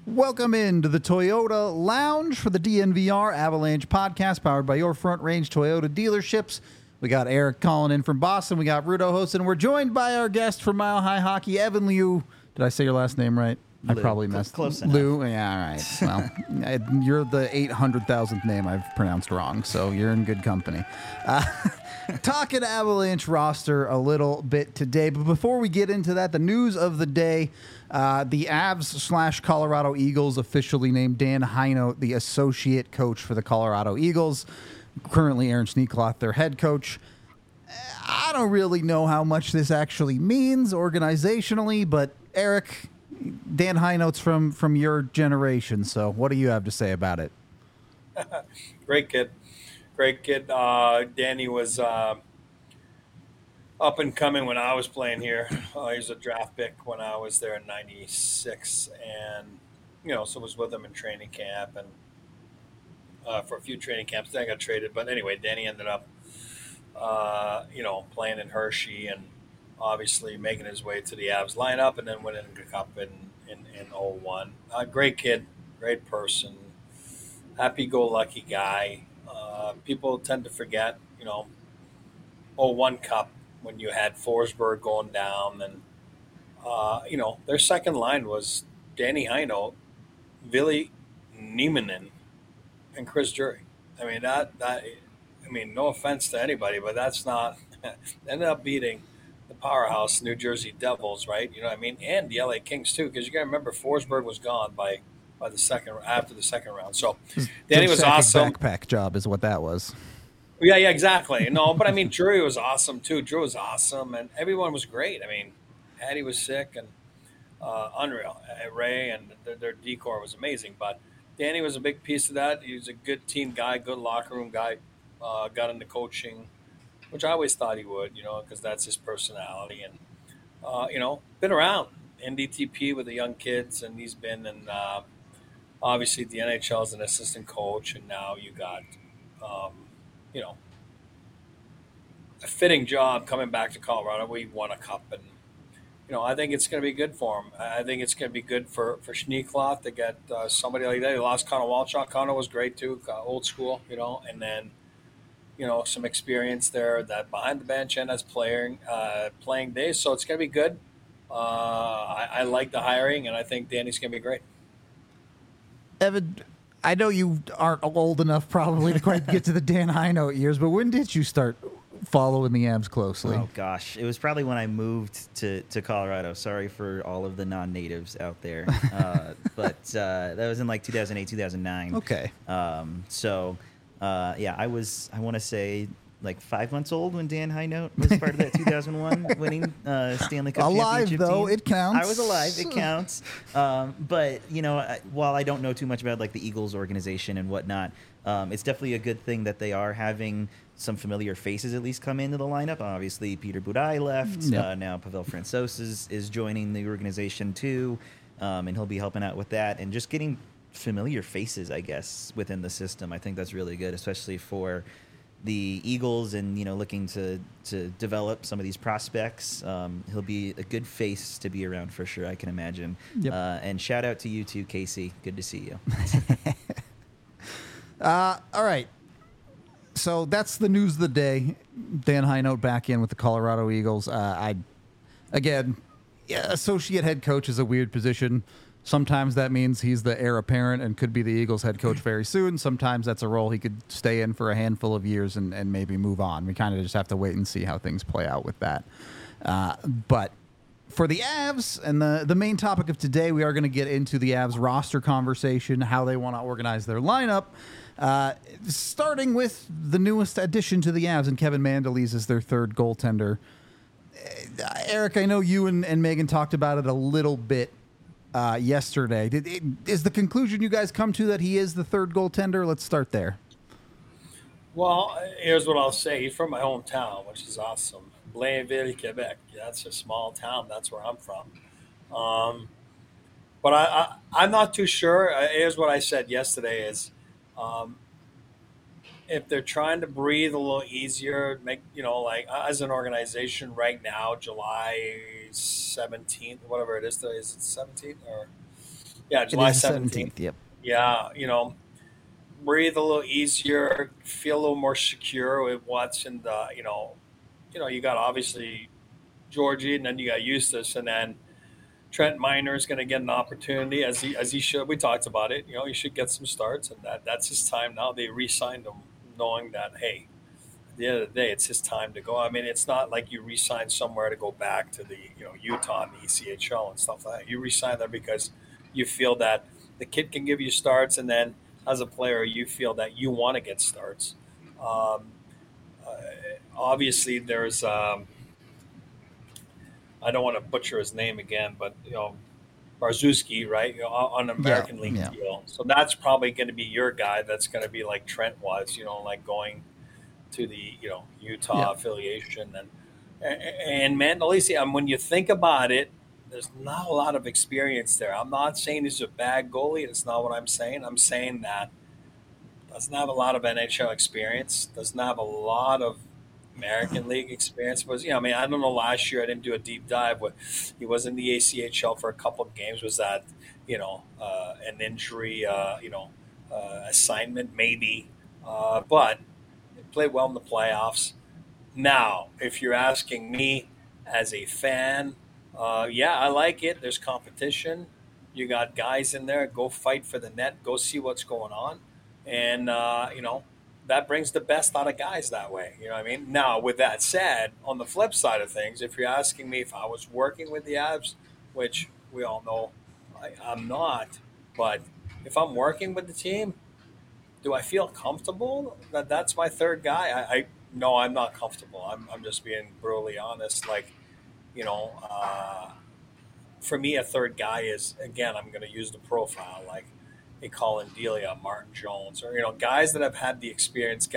Welcome into the Toyota Lounge for the DNVR Avalanche podcast powered by your Front Range Toyota dealerships. We got Eric calling in from Boston. We got Rudo hosting. We're joined by our guest from Mile High Hockey, Evan Liu. Did I say your last name right? Lou. I probably messed Close enough. Lou? Yeah, all right. Well, you're the 800,000th name I've pronounced wrong, so you're in good company. Talking Avalanche roster a little bit today, but before we get into that, the news of the day, the Avs/Colorado Eagles officially named Dan Heinold the associate coach for the Colorado Eagles. Currently Aaron Sneekloth, their head coach. I don't really know how much this actually means organizationally, but Eric, Dan Heinold's from your generation, so what do you have to say about it? Great kid. Danny was up and coming when I was playing here. He was a draft pick when I was there in '96, and so was with him in training camp and for a few training camps. Then I got traded, but anyway, Danny ended up playing in Hershey and obviously making his way to the Avs lineup, and then winning the cup in '01. Great kid, great person, happy-go-lucky guy. People tend to forget, '01 Cup when you had Forsberg going down, and their second line was Danny Heinold, Ville Nieminen, and Chris Drury. I mean, no offense to anybody, but that's not ended up beating the powerhouse New Jersey Devils, right? You know what I mean, and the LA Kings too, because you got to remember Forsberg was gone after the second round. So Danny was awesome. Backpack job is what that was. Yeah, exactly. No, but I mean, Drury was awesome too. Drew was awesome, and everyone was great. I mean, Hattie was sick and unreal. Ray and their decor was amazing. But Danny was a big piece of that. He was a good team guy, good locker room guy. Got into coaching, which I always thought he would, because that's his personality. And been around NDTP with the young kids, and he's been in. Obviously, the NHL as an assistant coach, and now you got, a fitting job coming back to Colorado. We won a cup, and I think it's going to be good for him. I think it's going to be good for Sneekloth to get somebody like that. He lost Connor Walchuk. Connor was great too, old school, and then some experience there that behind the bench and as playing days. So it's going to be good. I like the hiring, and I think Danny's going to be great. Evan, I know you aren't old enough probably to quite get to the Dan Heinold years, but when did you start following the Avs closely? Oh, gosh. It was probably when I moved to Colorado. Sorry for all of the non-natives out there. But that was in like 2008, 2009. Okay. I want to say like 5 months old when Dan Heinold was part of that 2001 winning Stanley Cup alive, championship though, team. it counts. I was alive. It counts. But, while I don't know too much about like the Eagles organization and whatnot, it's definitely a good thing that they are having some familiar faces at least come into the lineup. Obviously, Peter Budaj left. Yep. Now Pavel Francouz is joining the organization too, and he'll be helping out with that. And just getting familiar faces, I guess, within the system. I think that's really good, especially for the Eagles and, looking to develop some of these prospects. He'll be a good face to be around for sure, I can imagine. Yep. And shout out to you too, Casey. Good to see you. All right. So that's the news of the day. Dan Heinold back in with the Colorado Eagles. Associate head coach is a weird position. Sometimes that means he's the heir apparent and could be the Eagles head coach very soon. Sometimes that's a role he could stay in for a handful of years and maybe move on. We kind of just have to wait and see how things play out with that. But for the Avs and the main topic of today, we are going to get into the Avs roster conversation, how they want to organize their lineup, starting with the newest addition to the Avs, and Kevin Mandolese is their third goaltender. Eric, I know you and Megan talked about it a little bit yesterday. Is the conclusion you guys come to that he is the third goaltender? Let's start there. Well, here's what I'll say. He's from my hometown, which is awesome. Blainville, Quebec. That's a small town. That's where I'm from. But I'm not too sure. Here's what I said yesterday is if they're trying to breathe a little easier, make, like as an organization right now, July 17th, whatever it is, is it 17th or Yeah, It July is the 17th. 17th. Yep. Yeah, breathe a little easier, feel a little more secure with what's in the, you got obviously Georgie, and then you got Eustace, and then Trent Miner is going to get an opportunity as he should. We talked about it. He should get some starts, and that's his time now. They re-signed him, knowing that hey, at the end of the day, it's his time to go. I mean, it's not like you re-sign somewhere to go back to the Utah and the ECHL and stuff like that. You re-sign there because you feel that the kid can give you starts, and then as a player, you feel that you want to get starts. Um, uh, Obviously, there's I don't want to butcher his name again, but Barzewski, right? On an Yeah. American League Yeah. deal. So that's probably going to be your guy. That's going to be like Trent was, like going to the Utah Yeah. affiliation and Mandalisi. When you think about it, there's not a lot of experience there. I'm not saying he's a bad goalie. That's not what I'm saying. I'm saying that doesn't have a lot of NHL experience. Doesn't have a lot of American League experience. Was I mean, I don't know. Last year, I didn't do a deep dive. But he was in the ACHL for a couple of games. Was that an injury? Assignment maybe, but he played well in the playoffs. Now, if you're asking me as a fan, yeah, I like it. There's competition. You got guys in there. Go fight for the net. Go see what's going on, and that brings the best out of guys that way. You know what I mean? Now, with that said, on the flip side of things, if you're asking me if I was working with the Avs, which we all know I'm not, but if I'm working with the team, do I feel comfortable that that's my third guy? I no, I'm not comfortable. I'm just being brutally honest. Like, you know, uh, for me, a third guy is, again, I'm going to use the profile like a Colin Delia, Martin Jones, or guys that have had the experience,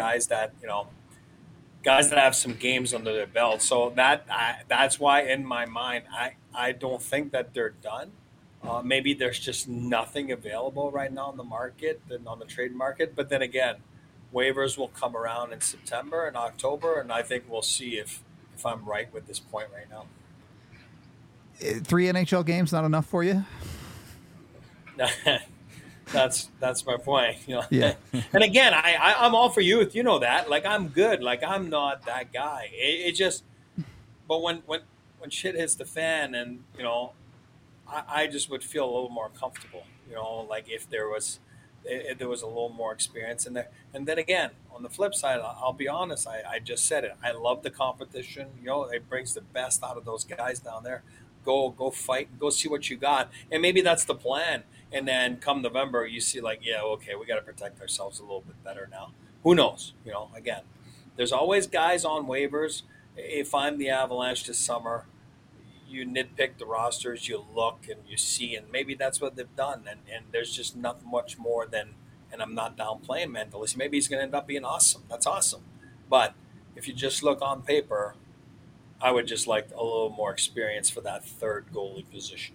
guys that have some games under their belt. So that's why in my mind, I don't think that they're done. Maybe there's just nothing available right now on the market and on the trade market. But then again, waivers will come around in September and October, and I think we'll see if I'm right with this point right now. 3 NHL games not enough for you? That's my point. Yeah. And again, I'm all for youth. You know that. Like, I'm good. Like, I'm not that guy. It just. But when shit hits the fan, and I just would feel a little more comfortable. Like if there was a little more experience in there. And then again, on the flip side, I'll be honest. I just said it. I love the competition. It brings the best out of those guys down there. Go fight. Go see what you got. And maybe that's the plan. And then come November, you see like, yeah, okay, we got to protect ourselves a little bit better now. Who knows? Again, there's always guys on waivers. If I'm the Avalanche this summer, you nitpick the rosters, you look and you see, and maybe that's what they've done. And there's just not much more than, and I'm not downplaying Mentalist. Maybe he's going to end up being awesome. That's awesome. But if you just look on paper, I would just like a little more experience for that third goalie position.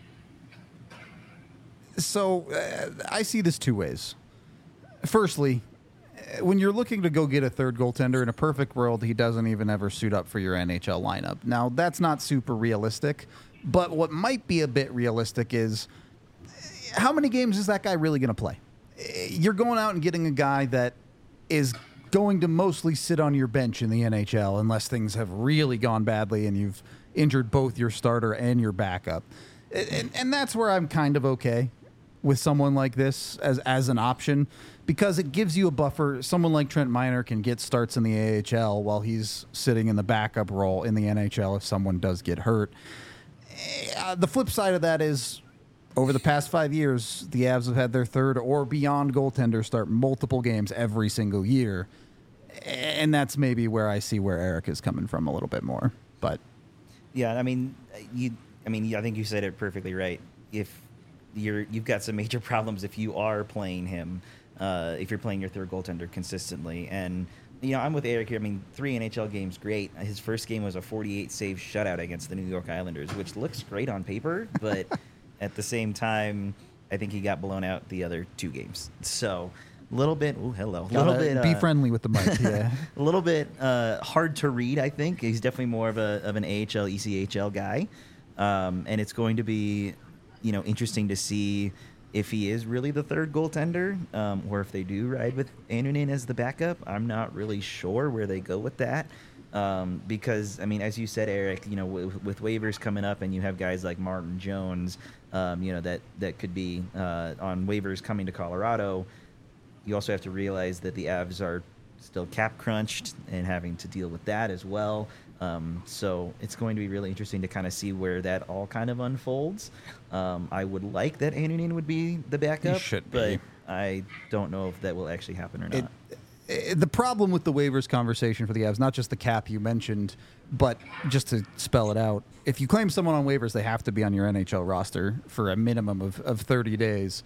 So I see this two ways. Firstly, when you're looking to go get a third goaltender, in a perfect world, he doesn't even ever suit up for your NHL lineup. Now, that's not super realistic, but what might be a bit realistic is how many games is that guy really going to play? You're going out and getting a guy that is going to mostly sit on your bench in the NHL unless things have really gone badly and you've injured both your starter and your backup. And that's where I'm kind of okay with someone like this as an option, because it gives you a buffer. Someone like Trent Miner can get starts in the AHL while he's sitting in the backup role in the NHL if someone does get hurt. The flip side of that is, over the past 5 years, the Avs have had their third or beyond goaltender start multiple games every single year. And that's maybe where I see where Eric is coming from a little bit more. But yeah, I think you said it perfectly right. If you've got some major problems if you are playing him, if you're playing your third goaltender consistently. And I'm with Eric here. I mean, 3 NHL games, great. His first game was a 48 save shutout against the New York Islanders, which looks great on paper, but at the same time, I think he got blown out the other 2 games. So a little bit. Oh, hello. A little bit. Be friendly with the mic. Yeah. A little bit hard to read. I think he's definitely more of an AHL ECHL guy, and it's going to be interesting to see if he is really the third goaltender, or if they do ride with Annunen as the backup. I'm not really sure where they go with that. Because, I mean, as you said, Eric, with waivers coming up and you have guys like Martin Jones, that could be on waivers coming to Colorado, you also have to realize that the Avs are still cap crunched and having to deal with that as well. So it's going to be really interesting to kind of see where that all kind of unfolds. I would like that Annunen would be the backup, but I don't know if that will actually happen or not. The problem with the waivers conversation for the Avs, not just the cap you mentioned, but just to spell it out, if you claim someone on waivers, they have to be on your NHL roster for a minimum of 30 days.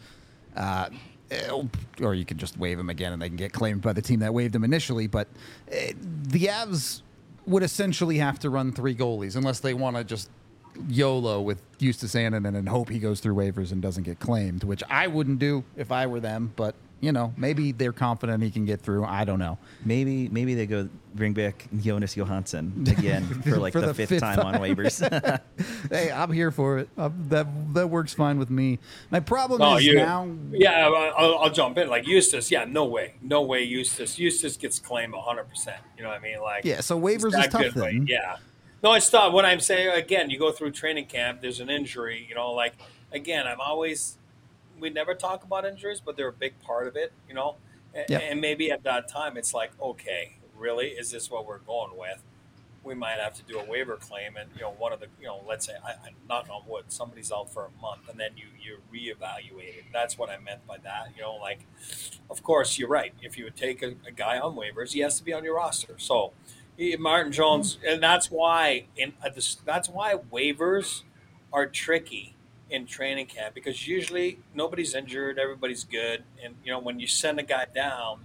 Or you can just waive them again and they can get claimed by the team that waived them initially. But the Avs would essentially have to run 3 goalies unless they want to just YOLO with Justus Annunen and hope he goes through waivers and doesn't get claimed, which I wouldn't do if I were them. But maybe they're confident he can get through. I don't know. Maybe they go bring back Jonas Johansson again for like the fifth time on waivers. Hey, I'm here for it. That works fine with me. My problem is now. Yeah, I'll jump in. Like Justus, no way Justus gets claimed 100%. You know what I mean? Like, yeah. So waivers is tough then. Yeah. No, it's tough. What I'm saying again, you go through training camp. There's an injury. Like again, we never talk about injuries, but they're a big part of it, And maybe at that time, it's like, okay, really, is this what we're going with? We might have to do a waiver claim, and one of the, let's say, I knock on wood, somebody's out for a month, and then you reevaluate it. That's what I meant by that. Like, of course, you're right. If you would take a guy on waivers, he has to be on your roster. So, Martin Jones, and that's why waivers are tricky in training camp, because usually nobody's injured, everybody's good, and when you send a guy down,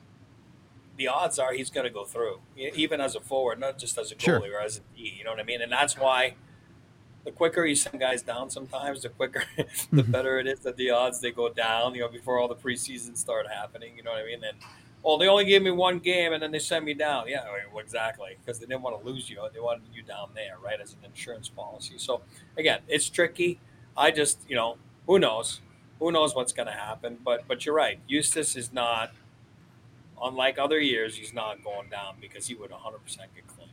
the odds are he's going to go through, even as a forward, not just as a goalie or as a D. You know what I mean? And that's why the quicker you send guys down, sometimes the quicker, the better it is that the odds they go down. Before all the preseason start happening. You know what I mean? And they only gave me 1 game, and then they sent me down. Yeah, exactly, because they didn't want to lose you. They wanted you down there, right, as an insurance policy. So again, it's tricky. I just, who knows? Who knows what's going to happen? But you're right. Justus is not, unlike other years, he's not going down because he would 100% get claimed.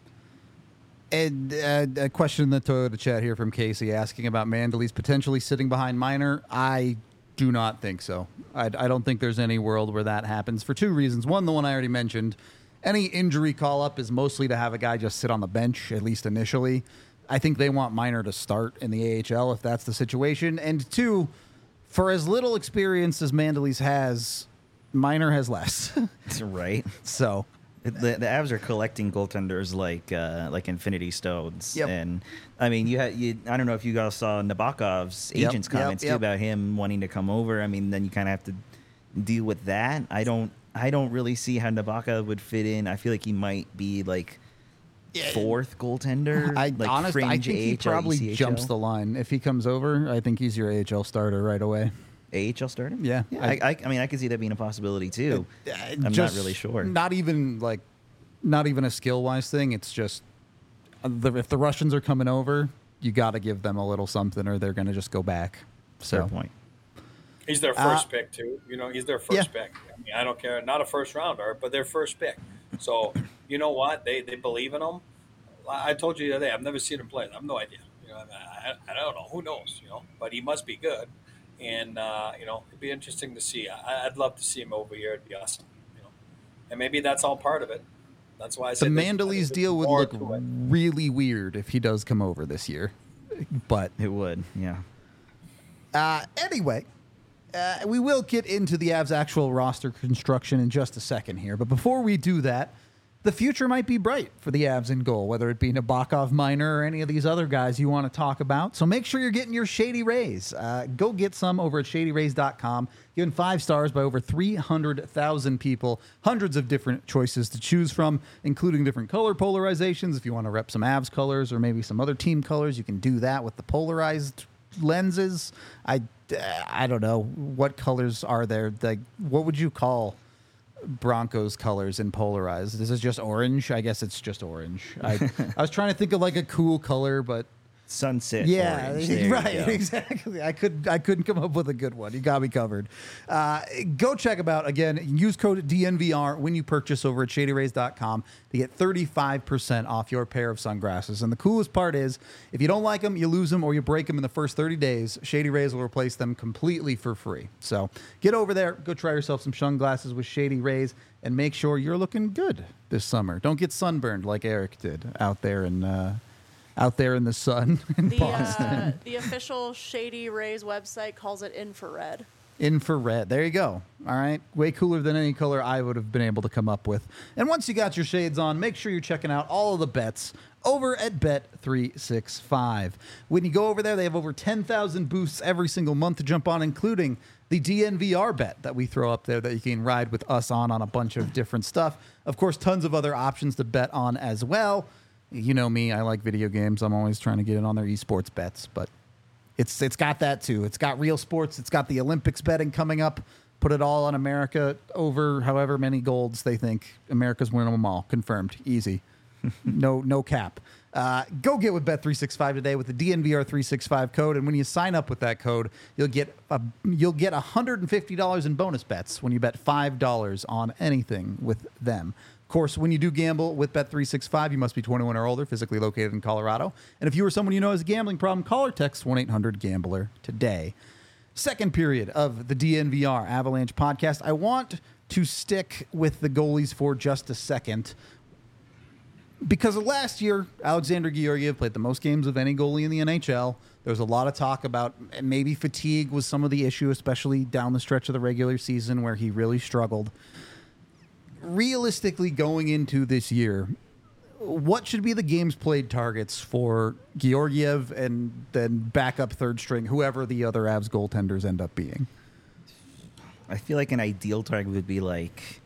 And a question in the Toyota chat here from Casey asking about Mandolese potentially sitting behind Minor. I do not think so. I don't think there's any world where that happens for 2 reasons. One, the one I already mentioned. Any injury call-up is mostly to have a guy just sit on the bench, at least initially. I think they want Minor to start in the AHL if that's the situation. And 2, for as little experience as Mandolese has, Minor has less. Right. So the Avs are collecting goaltenders like Infinity Stones. Yep. And I mean, I don't know if you guys saw Nabokov's agent's comments too about him wanting to come over. I mean, then you kind of have to deal with that. I don't really see how Nabokov would fit in. I feel like he might be like 4th goaltender. I think he probably ECHL. Jumps the line if he comes over. I think he's your AHL starter right away. AHL starter? Yeah. I mean, I could see that being a possibility too. I'm not really sure. Not even a skill wise thing. It's just if the Russians are coming over, you got to give them a little something, or they're going to just go back. So fair point. He's their first pick too. He's their first pick. I mean, I don't care. Not a first rounder, but their first pick. So you know what? They believe in him. I told you the other day, I've never seen him play. I have no idea. I don't know. Who knows? But he must be good. And it'd be interesting to see. I'd love to see him over here. It'd be awesome. And maybe that's all part of it. That's why I said the Mandolese deal would look really weird if he does come over this year. But it would, yeah. Anyway, we will get into the Avs' actual roster construction in just a second here. But before we do that, the future might be bright for the Avs in goal, whether it be Nabokov, Minor, or any of these other guys you want to talk about. So make sure you're getting your Shady Rays. Go get some over at ShadyRays.com. Given 5 stars by over 300,000 people. Hundreds of different choices to choose from, including different color polarizations. If you want to rep some Avs colors or maybe some other team colors, you can do that with the polarized lenses. I don't know. What colors are there? Like, what would you call Broncos colors in polarized? Is it just orange? I guess it's just orange. I was trying to think of like a cool color, but Sunset Yeah, orange. There you right, go. exactly. I couldn't come up with a good one. You got me covered. Go check them out again. Use code DNVR when you purchase over at ShadyRays.com to get 35% off your pair of sunglasses. And the coolest part is, if you don't like them, you lose them, or you break them in the first 30 days, Shady Rays will replace them completely for free. So get over there, go try yourself some sunglasses with Shady Rays, and make sure you're looking good this summer. Don't get sunburned like Eric did out there in the sun in Boston. The official Shady Rays website calls it infrared. Infrared. There you go. All right. Way cooler than any color I would have been able to come up with. And once you got your shades on, make sure you're checking out all of the bets over at Bet365. When you go over there, they have over 10,000 boosts every single month to jump on, including the DNVR bet that we throw up there that you can ride with us on a bunch of different stuff. Of course, tons of other options to bet on as well. You know me, I like video games. I'm always trying to get in on their esports bets, but it's got that too. It's got real sports. It's got the Olympics betting coming up. Put it all on America over however many golds they think. America's winning them all. Confirmed. Easy. No cap. Go get with Bet365 today with the DNVR365 code, and when you sign up with that code, you'll get $150 in bonus bets when you bet $5 on anything with them. Of course, when you do gamble with Bet365, you must be 21 or older, physically located in Colorado. And if you or someone you know has a gambling problem, call or text 1-800-GAMBLER today. Second period of the DNVR Avalanche podcast. I want to stick with the goalies for just a second, because last year, Alexander Georgiev played the most games of any goalie in the NHL. There was a lot of talk about maybe fatigue was some of the issue, especially down the stretch of the regular season where he really struggled. Realistically, going into this year, what should be the games played targets for Georgiev and then backup third string, whoever the other Avs goaltenders end up being? I feel like an ideal target would be like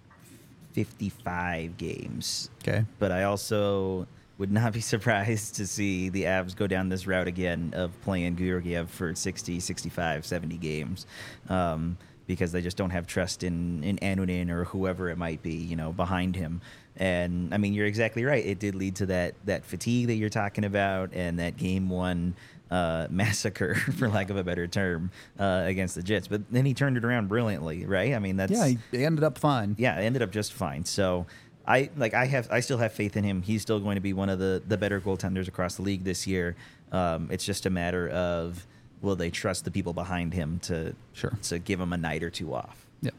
55 games. Okay. But I also would not be surprised to see the Avs go down this route again of playing Georgiev for 60, 65, 70 games. Because they just don't have trust in Annunen or whoever it might be, behind him. And, I mean, you're exactly right. It did lead to that fatigue that you're talking about and that game one massacre, for lack of a better term, against the Jets. But then he turned it around brilliantly, right? I mean, that's... Yeah, he ended up fine. Yeah, it ended up just fine. So I still have faith in him. He's still going to be one of the better goaltenders across the league this year. It's just a matter of... will they trust the people behind him to give him a night or two off? Yep.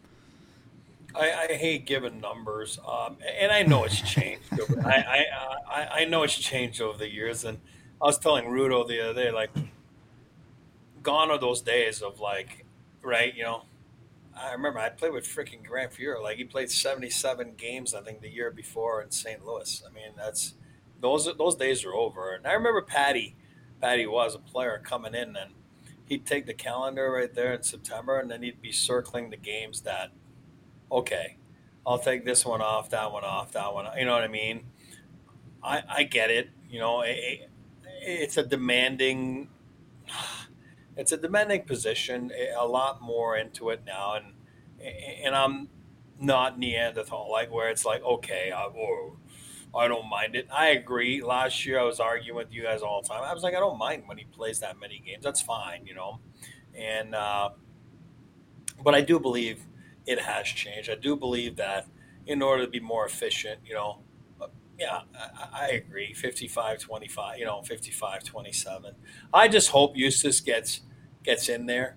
I hate giving numbers, and I know it's changed. I know it's changed over the years, and I was telling Rudo the other day, like, gone are those days of like, right? I remember I played with freaking Grant Fuhrer. Like, he played 77 games, I think, the year before in St. Louis. I mean, those days are over. And I remember Patty was a player coming in, and he'd take the calendar right there in September, and then he'd be circling the games that, okay, I'll take this one off, that one off, that one. You know what I mean? I get it. It's a demanding position. A lot more into it now, and I'm not Neanderthal, like where it's like, okay, I don't mind it. I agree. Last year I was arguing with you guys all the time. I was like, I don't mind when he plays that many games. That's fine, And but I do believe it has changed. I do believe that in order to be more efficient, yeah, I agree. 55-25, 55-27. I just hope Eustace gets in there,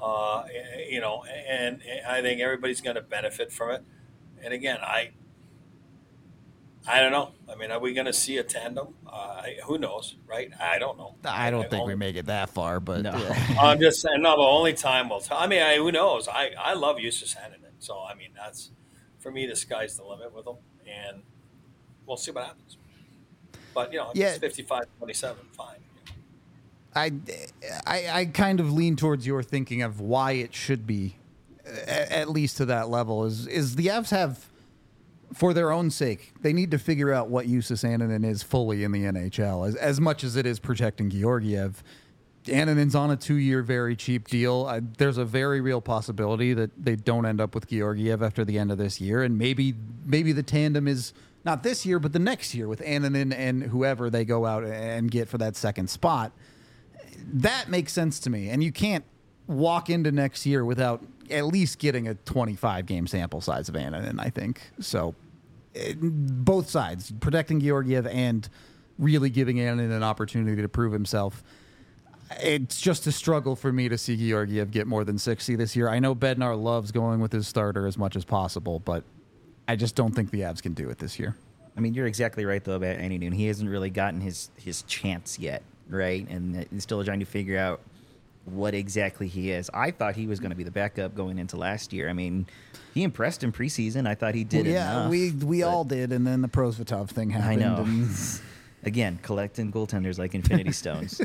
and I think everybody's going to benefit from it. And again, I don't know. I mean, are we going to see a tandem? Who knows, right? I don't know. I don't think we make it that far, but no. Yeah. I'm just saying. No, but only time will tell. I mean, who knows? I love Eustace Annunen, so I mean, that's for me. The sky's the limit with him, and we'll see what happens. But if it's 55-27, fine. I kind of lean towards your thinking of why it should be, at least to that level. Is the Avs have, for their own sake, they need to figure out what Justus Annunen is fully in the NHL. As much as it is protecting Georgiev, Annunen's on a 2-year very cheap deal. There's a very real possibility that they don't end up with Georgiev after the end of this year, and maybe the tandem is not this year, but the next year with Annunen and whoever they go out and get for that second spot. That makes sense to me. And you can't walk into next year without at least getting a 25-game sample size of Annunen, I think. So both sides, protecting Georgiev and really giving Annunen an opportunity to prove himself. It's just a struggle for me to see Georgiev get more than 60 this year. I know Bednar loves going with his starter as much as possible, but I just don't think the Avs can do it this year. I mean, you're exactly right, though, about Annunen. He hasn't really gotten his chance yet, right? And he's still trying to figure out what exactly he is. I thought he was going to be the backup going into last year. I mean, he impressed in preseason. I thought he did enough. We all did, and then the Prosvetov thing happened. I know. And Again, collecting goaltenders like Infinity Stones.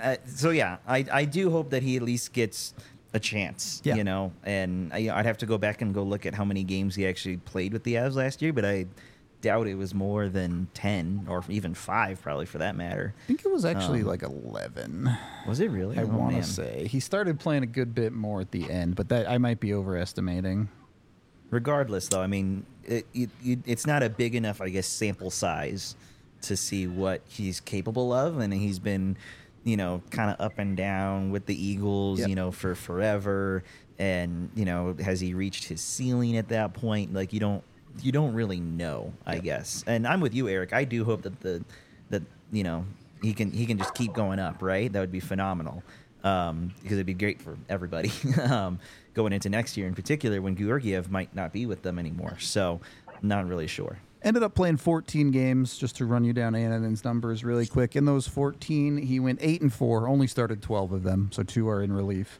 I do hope that he at least gets a chance, Yeah. you know. And I'd have to go back and go look at how many games he actually played with the Avs last year, but I doubt it was more than 10 or even 5, probably, for that matter. I think it was actually like 11. Was it really? I Oh, want man. to say he started playing a good bit more at the end, but that I might be overestimating. Regardless, though, I mean, it's not a big enough, I guess, sample size to see what he's capable of, and he's been, you know, kind of up and down with the Eagles, Yep. you know, for forever. And, you know, has he reached his ceiling at that point? Like, you don't really know, I guess. And I'm with you, Eric. I do hope that you know, he can just keep going up, right? That would be phenomenal. Because it'd be great for everybody going into next year, in particular, when Georgiev might not be with them anymore. So, not really sure. Ended up playing 14 games, just to run you down Annunen's numbers really quick. In those 14, he went 8-4, only started 12 of them, so 2 are in relief.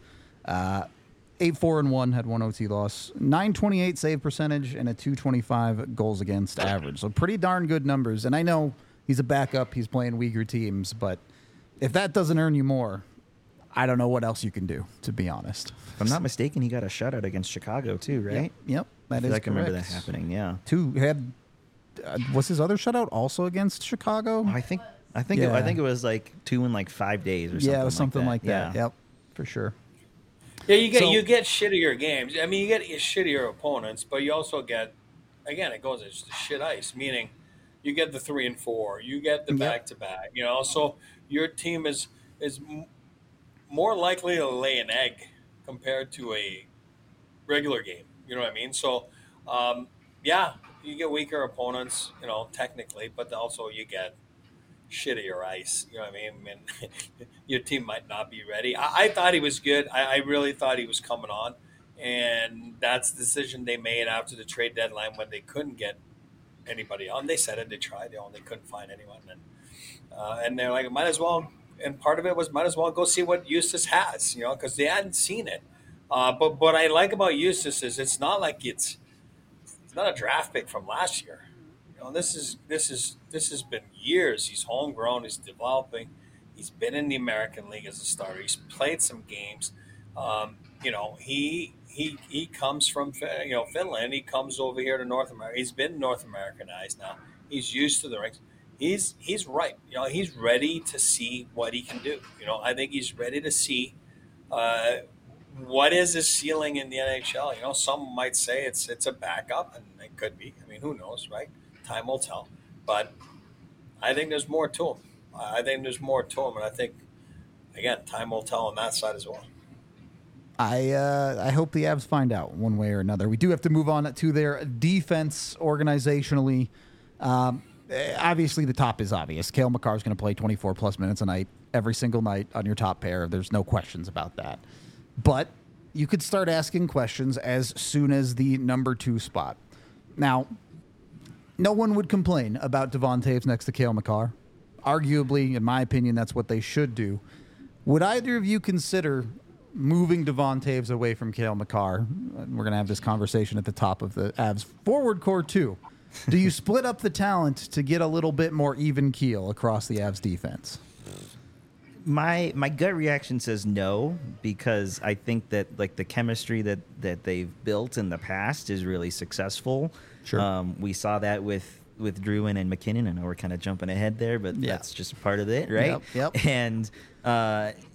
8-4-1, had 1 OT loss, 928 save percentage, and a 225 goals against average. So pretty darn good numbers. And I know he's a backup, he's playing weaker teams, but if that doesn't earn you more, I don't know what else you can do, to be honest. If I'm not mistaken, he got a shutout against Chicago too, right? Yep, that is I can remember that correct. happening. Yeah. 2 had. Was his other shutout also against Chicago? I think Yeah. I think it was like 2 in like 5 days or something. Yeah, it was something like that. Yeah. Yep, for sure. Yeah, you So- get shittier games. I mean, you get shittier opponents, but you also get, again, it goes it's shit ice. Meaning, you get the 3 and 4, you get the Yep. back to back. You know, so your team is more likely to lay an egg compared to a regular game. You know what I mean? So, yeah, you get weaker opponents. You know, technically, but also you get shittier ice. You know what I mean? Your team might not be ready. I thought he was good. I really thought he was coming on. And that's the decision they made after the trade deadline when they couldn't get anybody on. They said it. They tried. They couldn't find anyone. And they're like, might as well. And part of it was might as well go see what Eustace has, you know, because they hadn't seen it. But what I like about Eustace is it's not like it's not a draft pick from last year. You know, this has been years. He's homegrown. He's developing. He's been in the American League as a starter. He's played some games. You know, he comes from Finland. He comes over here to North America. He's been North Americanized now. He's used to the rinks. He's right. You know, he's ready to see what he can do. You know, I think he's ready to see what is his ceiling in the NHL. You know, some might say it's a backup, and it could be. I mean, who knows, right? Time will tell. But I think there's more to him. And I think, again, time will tell on that side as well. I hope the Avs find out one way or another. We do have to move on to their defense organizationally. Obviously, the top is obvious. Cale Makar is going to play 24-plus minutes a night, every single night on your top pair. There's no questions about that. But you could start asking questions as soon as the number 2 spot. Now, no one would complain about Devon Toews next to Cale Makar. Arguably, in my opinion, that's what they should do. Would either of you consider moving Devon Toews away from Cale Makar? We're going to have this conversation at the top of the Avs forward core, too. Do you split up the talent to get a little bit more even keel across the Avs defense? My gut reaction says no, because I think that like the chemistry that they've built in the past is really successful. Sure. We saw that with Drouin and McKinnon. I know we're kind of jumping ahead there, but Yeah. that's just part of it, right? Yep. And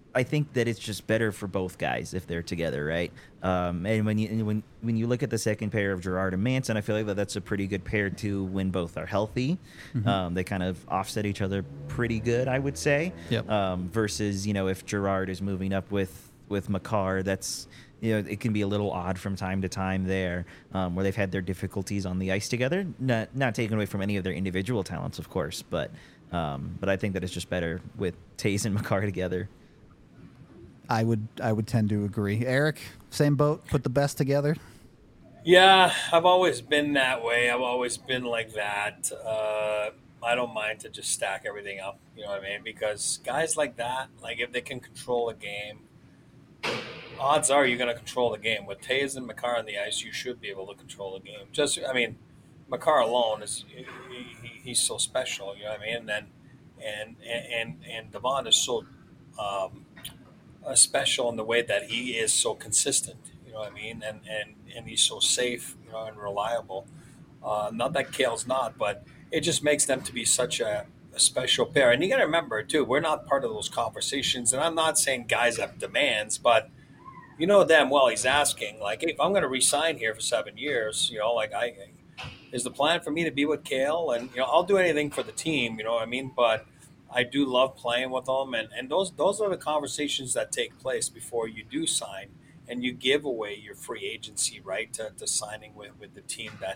I think that it's just better for both guys if they're together, right? And when you look at the second pair of Gerard and Manson, I feel like that's a pretty good pair too when both are healthy. They kind of offset each other pretty good, I would say. Yep. Versus, if Gerard is moving up with Makar, that's it can be a little odd from time to time there, where they've had their difficulties on the ice together. Not taken away from any of their individual talents, of course, but I think that it's just better with Taves and Makar together. I would tend to agree. Eric, same boat. Put the best together. Yeah, I've always been that way. I've always been like that. I don't mind to just stack everything up. You know what I mean? Because guys like that, like if they can control a game, odds are you're going to control the game. With Taves and Makar on the ice, you should be able to control the game. Makar alone he's so special. You know what I mean? And then and Devon is so. Special in the way that he is so consistent, you know what I mean, and he's so safe, and reliable. Not that Kale's not, but it just makes them to be such a special pair. And you got to remember too, we're not part of those conversations. And I'm not saying guys have demands, but damn well he's asking like, hey, if I'm going to resign here for 7 years, is the plan for me to be with Kale? And I'll do anything for the team, you know what I mean, but I do love playing with them, and those are the conversations that take place before you do sign, and you give away your free agency right to signing with the team that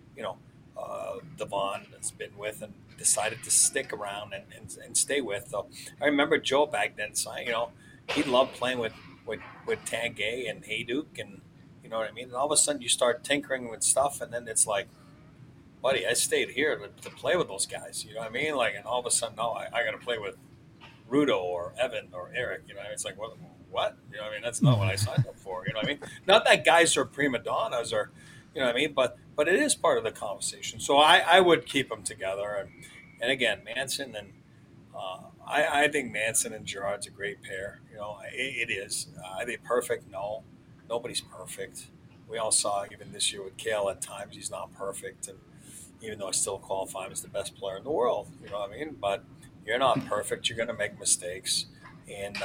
Devon has been with and decided to stick around and stay with. So I remember Joe back then saying, he loved playing with Tanguay and Hayduk, and you know what I mean. And all of a sudden you start tinkering with stuff, and then it's like, buddy, I stayed here to play with those guys. You know what I mean? Like, and all of a sudden, no, I got to play with Rudo or Evan or Eric. It's like, what? You know what I mean? That's not what I signed up for. You know what I mean? Not that guys are prima donnas or, you know what I mean? But it is part of the conversation. So I would keep them together. And again, Manson and I think Manson and Gerard's a great pair. It is. Are they perfect? No. Nobody's perfect. We all saw even this year with Kale at times he's not perfect. And even though I still qualify him as the best player in the world, you know what I mean? But you're not perfect. You're going to make mistakes. And,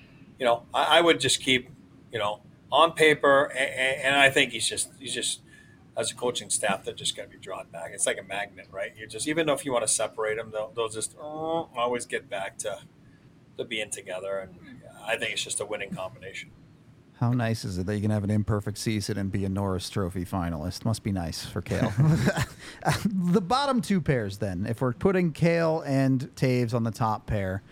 I would just keep, on paper. And I think he's just, as a coaching staff, they're just going to be drawn back. It's like a magnet, right? Even though if you want to separate them, they'll just always get back to being together. And I think it's just a winning combination. How nice is it that you can have an imperfect season and be a Norris Trophy finalist? Must be nice for Kale. The bottom two pairs, then, if we're putting Kale and Taves on the top pair,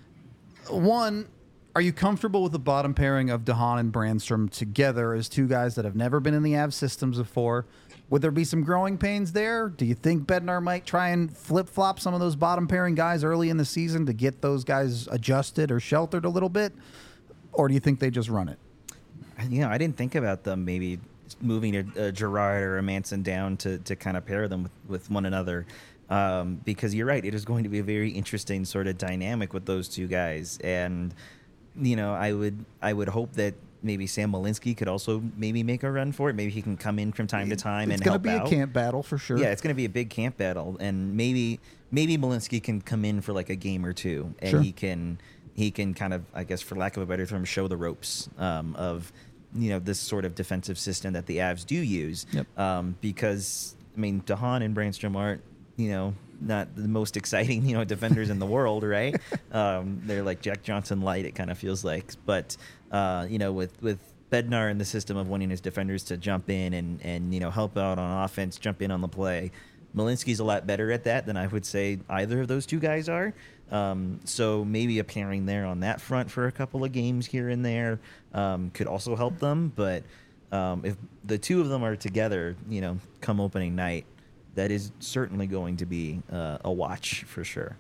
one, are you comfortable with the bottom pairing of DeHaan and Brandstrom together as two guys that have never been in the Avs systems before? Would there be some growing pains there? Do you think Bednar might try and flip-flop some of those bottom pairing guys early in the season to get those guys adjusted or sheltered a little bit? Or do you think they just run it? I didn't think about them maybe moving a Gerard or a Manson down to kind of pair them with one another, because you're right. It is going to be a very interesting sort of dynamic with those two guys. And, I would hope that maybe Sam Malinsky could also maybe make a run for it. Maybe he can come in from time to time and help out. It's going to be a camp battle for sure. Yeah, it's going to be a big camp battle. And maybe Malinsky can come in for like a game or two, and sure. he can kind of, I guess, for lack of a better term, show the ropes of this sort of defensive system that the Avs do use. Yep. Because, DeHaan and Brandstrom aren't, not the most exciting, defenders in the world, right? They're like Jack Johnson light, it kind of feels like. But, with Bednar in the system of wanting his defenders to jump in and help out on offense, jump in on the play, Malinsky's a lot better at that than I would say either of those two guys are. So maybe a pairing there on that front for a couple of games here and there could also help them. But if the two of them are together, come opening night, that is certainly going to be a watch for sure.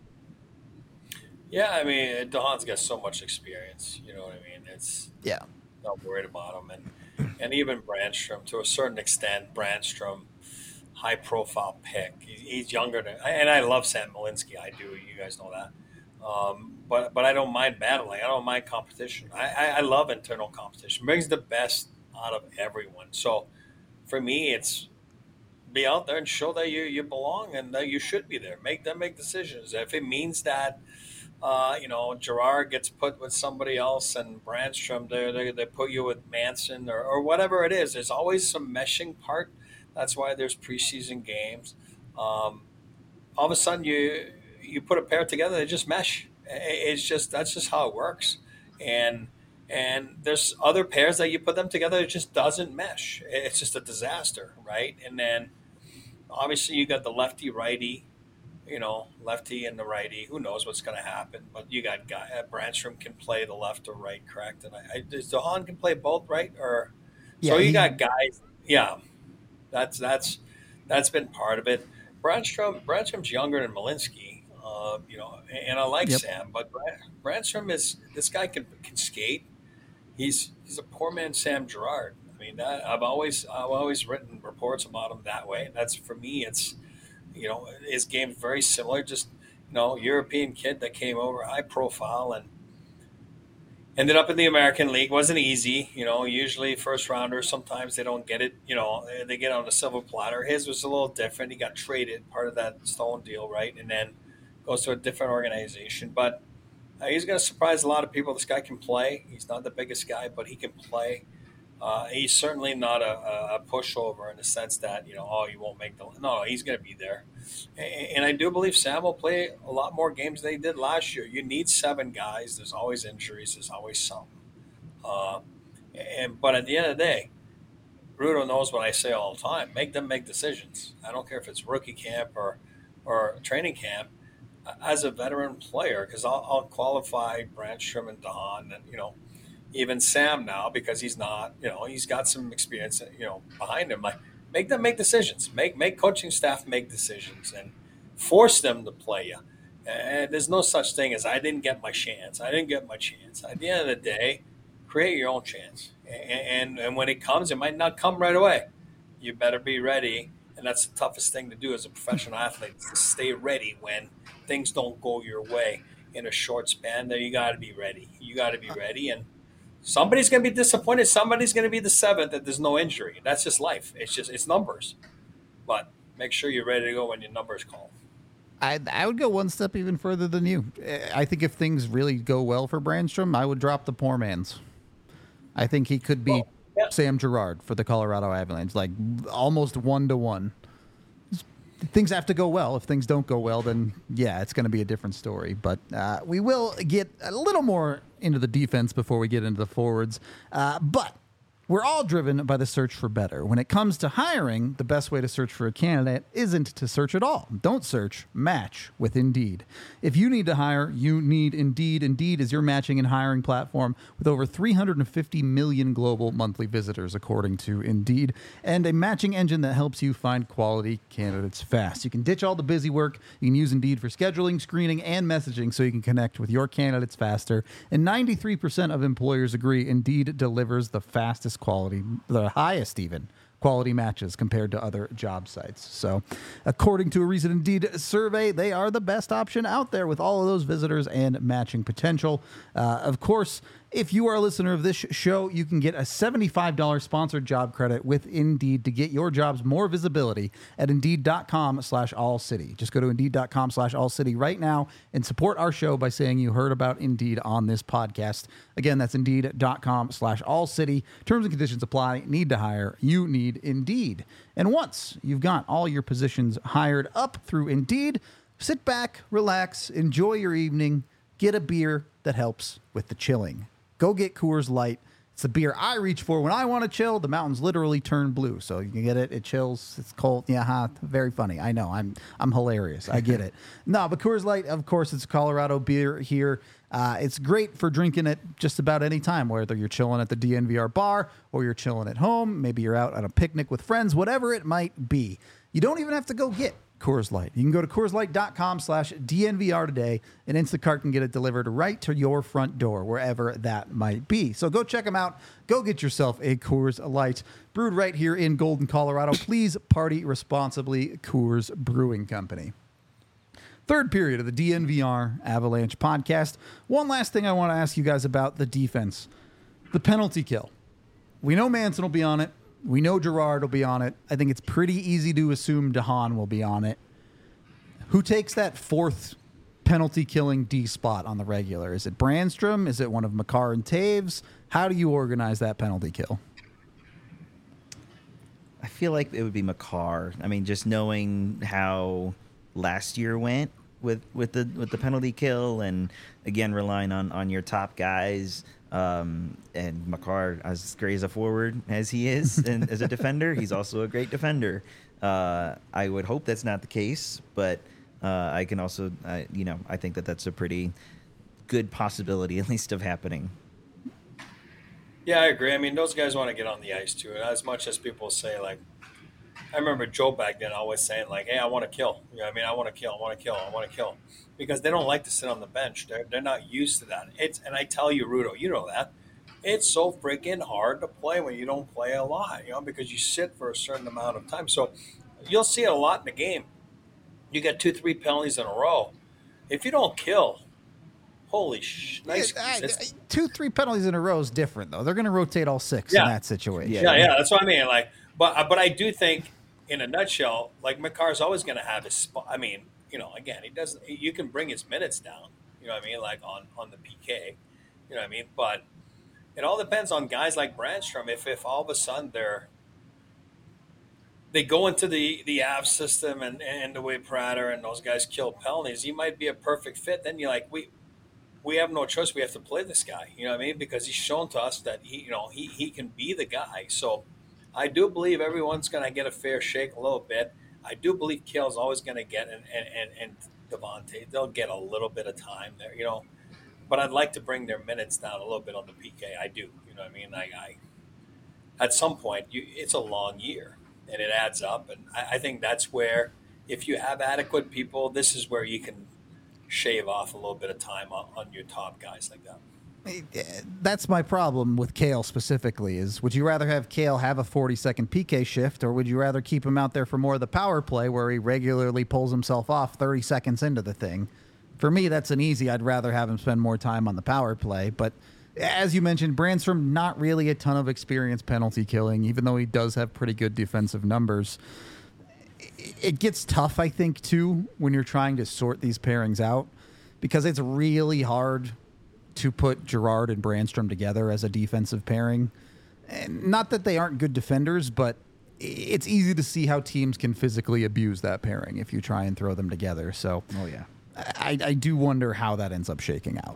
Yeah, DeHaan's got so much experience. You know what I mean? It's not worried about him, and even Brandstrom to a certain extent. Brandstrom, high profile pick. He's younger than, and I love Sam Malinsky. I do. You guys know that. But I don't mind battling. I don't mind competition. I love internal competition. Brings the best out of everyone. So for me, it's be out there and show that you belong and that you should be there. Make them make decisions. If it means that Gerard gets put with somebody else, and Brandstrom, they put you with Manson or whatever it is. There's always some meshing part. That's why there's preseason games. All of a sudden, you put a pair together, they just mesh. It's just that's just how it works. And there's other pairs that you put them together, it just doesn't mesh. It's just a disaster, right? And then obviously you got the lefty righty, lefty and the righty. Who knows what's going to happen? But you got Brandstrom can play the left or right, correct? And does DeHaan can play both, right? Or Yeah, so you got guys. Yeah, that's been part of it. Brandstrom's younger than Malinsky, and I like Yep. Sam, but Brandstrom is this guy can skate. He's a poor man Sam Gerard. I mean, I've always written reports about him that way. That's for me. It's his game's very similar. Just European kid that came over, high profile, and ended up in the American League. Wasn't easy. Usually first rounders, sometimes they don't get it. They get on a silver platter. His was a little different. He got traded, part of that Stone deal, right? And then goes to a different organization. But he's going to surprise a lot of people. This guy can play. He's not the biggest guy, but he can play. He's certainly not a pushover in the sense that, you won't make the – no, he's going to be there. And I do believe Sam will play a lot more games than he did last year. You need 7 guys. There's always injuries. There's always something. But at the end of the day, Rudo knows what I say all the time. Make them make decisions. I don't care if it's rookie camp or training camp. As a veteran player, because I'll qualify Brandstrom and DeHaan and, even Sam now, because he's not, he's got some experience, behind him. Like, make them make decisions. Make coaching staff make decisions and force them to play you. And there's no such thing as I didn't get my chance. I didn't get my chance. At the end of the day, create your own chance. And when it comes, it might not come right away. You better be ready. And that's the toughest thing to do as a professional athlete, is to stay ready when things don't go your way in a short span. There, you got to be ready. You got to be ready. And somebody's going to be disappointed. Somebody's going to be the 7th that there's no injury. That's just life. It's numbers. But make sure you're ready to go when your numbers call. I would go one step even further than you. I think if things really go well for Brandstrom, I would drop the poor man's. I think he could be Sam Gerard for the Colorado Avalanche, like almost 1-to-1. Things have to go well. If things don't go well, then yeah, it's going to be a different story. But we will get a little more into the defense before we get into the forwards. But we're all driven by the search for better. When it comes to hiring, the best way to search for a candidate isn't to search at all. Don't search, match with Indeed. If you need to hire, you need Indeed. Indeed is your matching and hiring platform with over 350 million global monthly visitors, according to Indeed, and a matching engine that helps you find quality candidates fast. You can ditch all the busy work. You can use Indeed for scheduling, screening, and messaging so you can connect with your candidates faster. And 93% of employers agree Indeed delivers the fastest quality, the highest even, quality matches compared to other job sites. So according to a recent Indeed survey, they are the best option out there with all of those visitors and matching potential. Of course, if you are a listener of this show, you can get a $75 sponsored job credit with Indeed to get your jobs more visibility at Indeed.com/AllCity. Just go to Indeed.com/AllCity right now and support our show by saying you heard about Indeed on this podcast. Again, that's Indeed.com/AllCity. Terms and conditions apply. Need to hire. You need Indeed. And once you've got all your positions hired up through Indeed, sit back, relax, enjoy your evening, get a beer that helps with the chilling. Go get Coors Light. It's the beer I reach for when I want to chill. The mountains literally turn blue, so you can get it. It chills. It's cold. Yeah, very funny. I know. I'm hilarious. I get it. No, but Coors Light, of course, it's Colorado beer here. It's great for drinking it just about any time, whether you're chilling at the DNVR bar or you're chilling at home. Maybe you're out on a picnic with friends, whatever it might be. You don't even have to go get Coors Light. You can go to CoorsLight.com/DNVR today, and Instacart can get it delivered right to your front door, wherever that might be. So go check them out. Go get yourself a Coors Light, brewed right here in Golden, Colorado. Please party responsibly. Coors Brewing Company. Third period of the DNVR Avalanche podcast. One last thing I want to ask you guys about the defense. The penalty kill. We know Manson will be on it. We know Gerard will be on it. I think it's pretty easy to assume DeHaan will be on it. Who takes that 4th penalty killing D spot on the regular? Is it Brandstrom? Is it one of Makar and Taves? How do you organize that penalty kill? I feel like it would be Makar. I mean, just knowing how last year went with the penalty kill, and again relying on your top guys. And Makar, as great as a forward as he is, and as a defender, he's also a great defender. I would hope that's not the case, but I can also, I think that's a pretty good possibility, at least, of happening. Yeah, I agree. I mean, those guys want to get on the ice too. As much as people say, like, I remember Joe back then always saying, like, "Hey, I want to kill." You know what I mean? I want to kill. I want to kill. I want to kill, because they don't like to sit on the bench. They're not used to that. And I tell you, Rudo, you know that it's so freaking hard to play when you don't play a lot. Because you sit for a certain amount of time. So you'll see it a lot in the game. You get 2-3 penalties in a row. If you don't kill. Holy nice. 2-3 penalties in a row is different, though. They're going to rotate all 6 in that situation. Yeah, that's what I mean. Like, but I do think, in a nutshell, like, Makar's always going to have his spot. I mean, again, he doesn't. You can bring his minutes down. You know what I mean? Like on the PK. You know what I mean? But it all depends on guys like Brandstrom. If all of a sudden they go into the Avs system and the way Prater and those guys kill penalties, he might be a perfect fit. Then you're like, we have no choice. We have to play this guy. You know what I mean? Because he's shown to us that he can be the guy. So I do believe everyone's going to get a fair shake a little bit. I do believe Kale's always going to get and Devontae, they'll get a little bit of time there. But I'd like to bring their minutes down a little bit on the PK. I do. You know what I mean? I at some point, it's a long year and it adds up. And I think that's where, if you have adequate people, this is where you can shave off a little bit of time on your top guys like that. That's my problem with Kale specifically. Is would you rather have Kale have a 40-second PK shift, or would you rather keep him out there for more of the power play where he regularly pulls himself off 30 seconds into the thing? For me, that's an easy. I'd rather have him spend more time on the power play. But as you mentioned, Brandstrom, not really a ton of experience penalty killing, even though he does have pretty good defensive numbers. It gets tough, I think, too, when you're trying to sort these pairings out, because it's really hard to put Girard and Brandstrom together as a defensive pairing. And not that they aren't good defenders, but it's easy to see how teams can physically abuse that pairing if you try and throw them together. So, I do wonder how that ends up shaking out.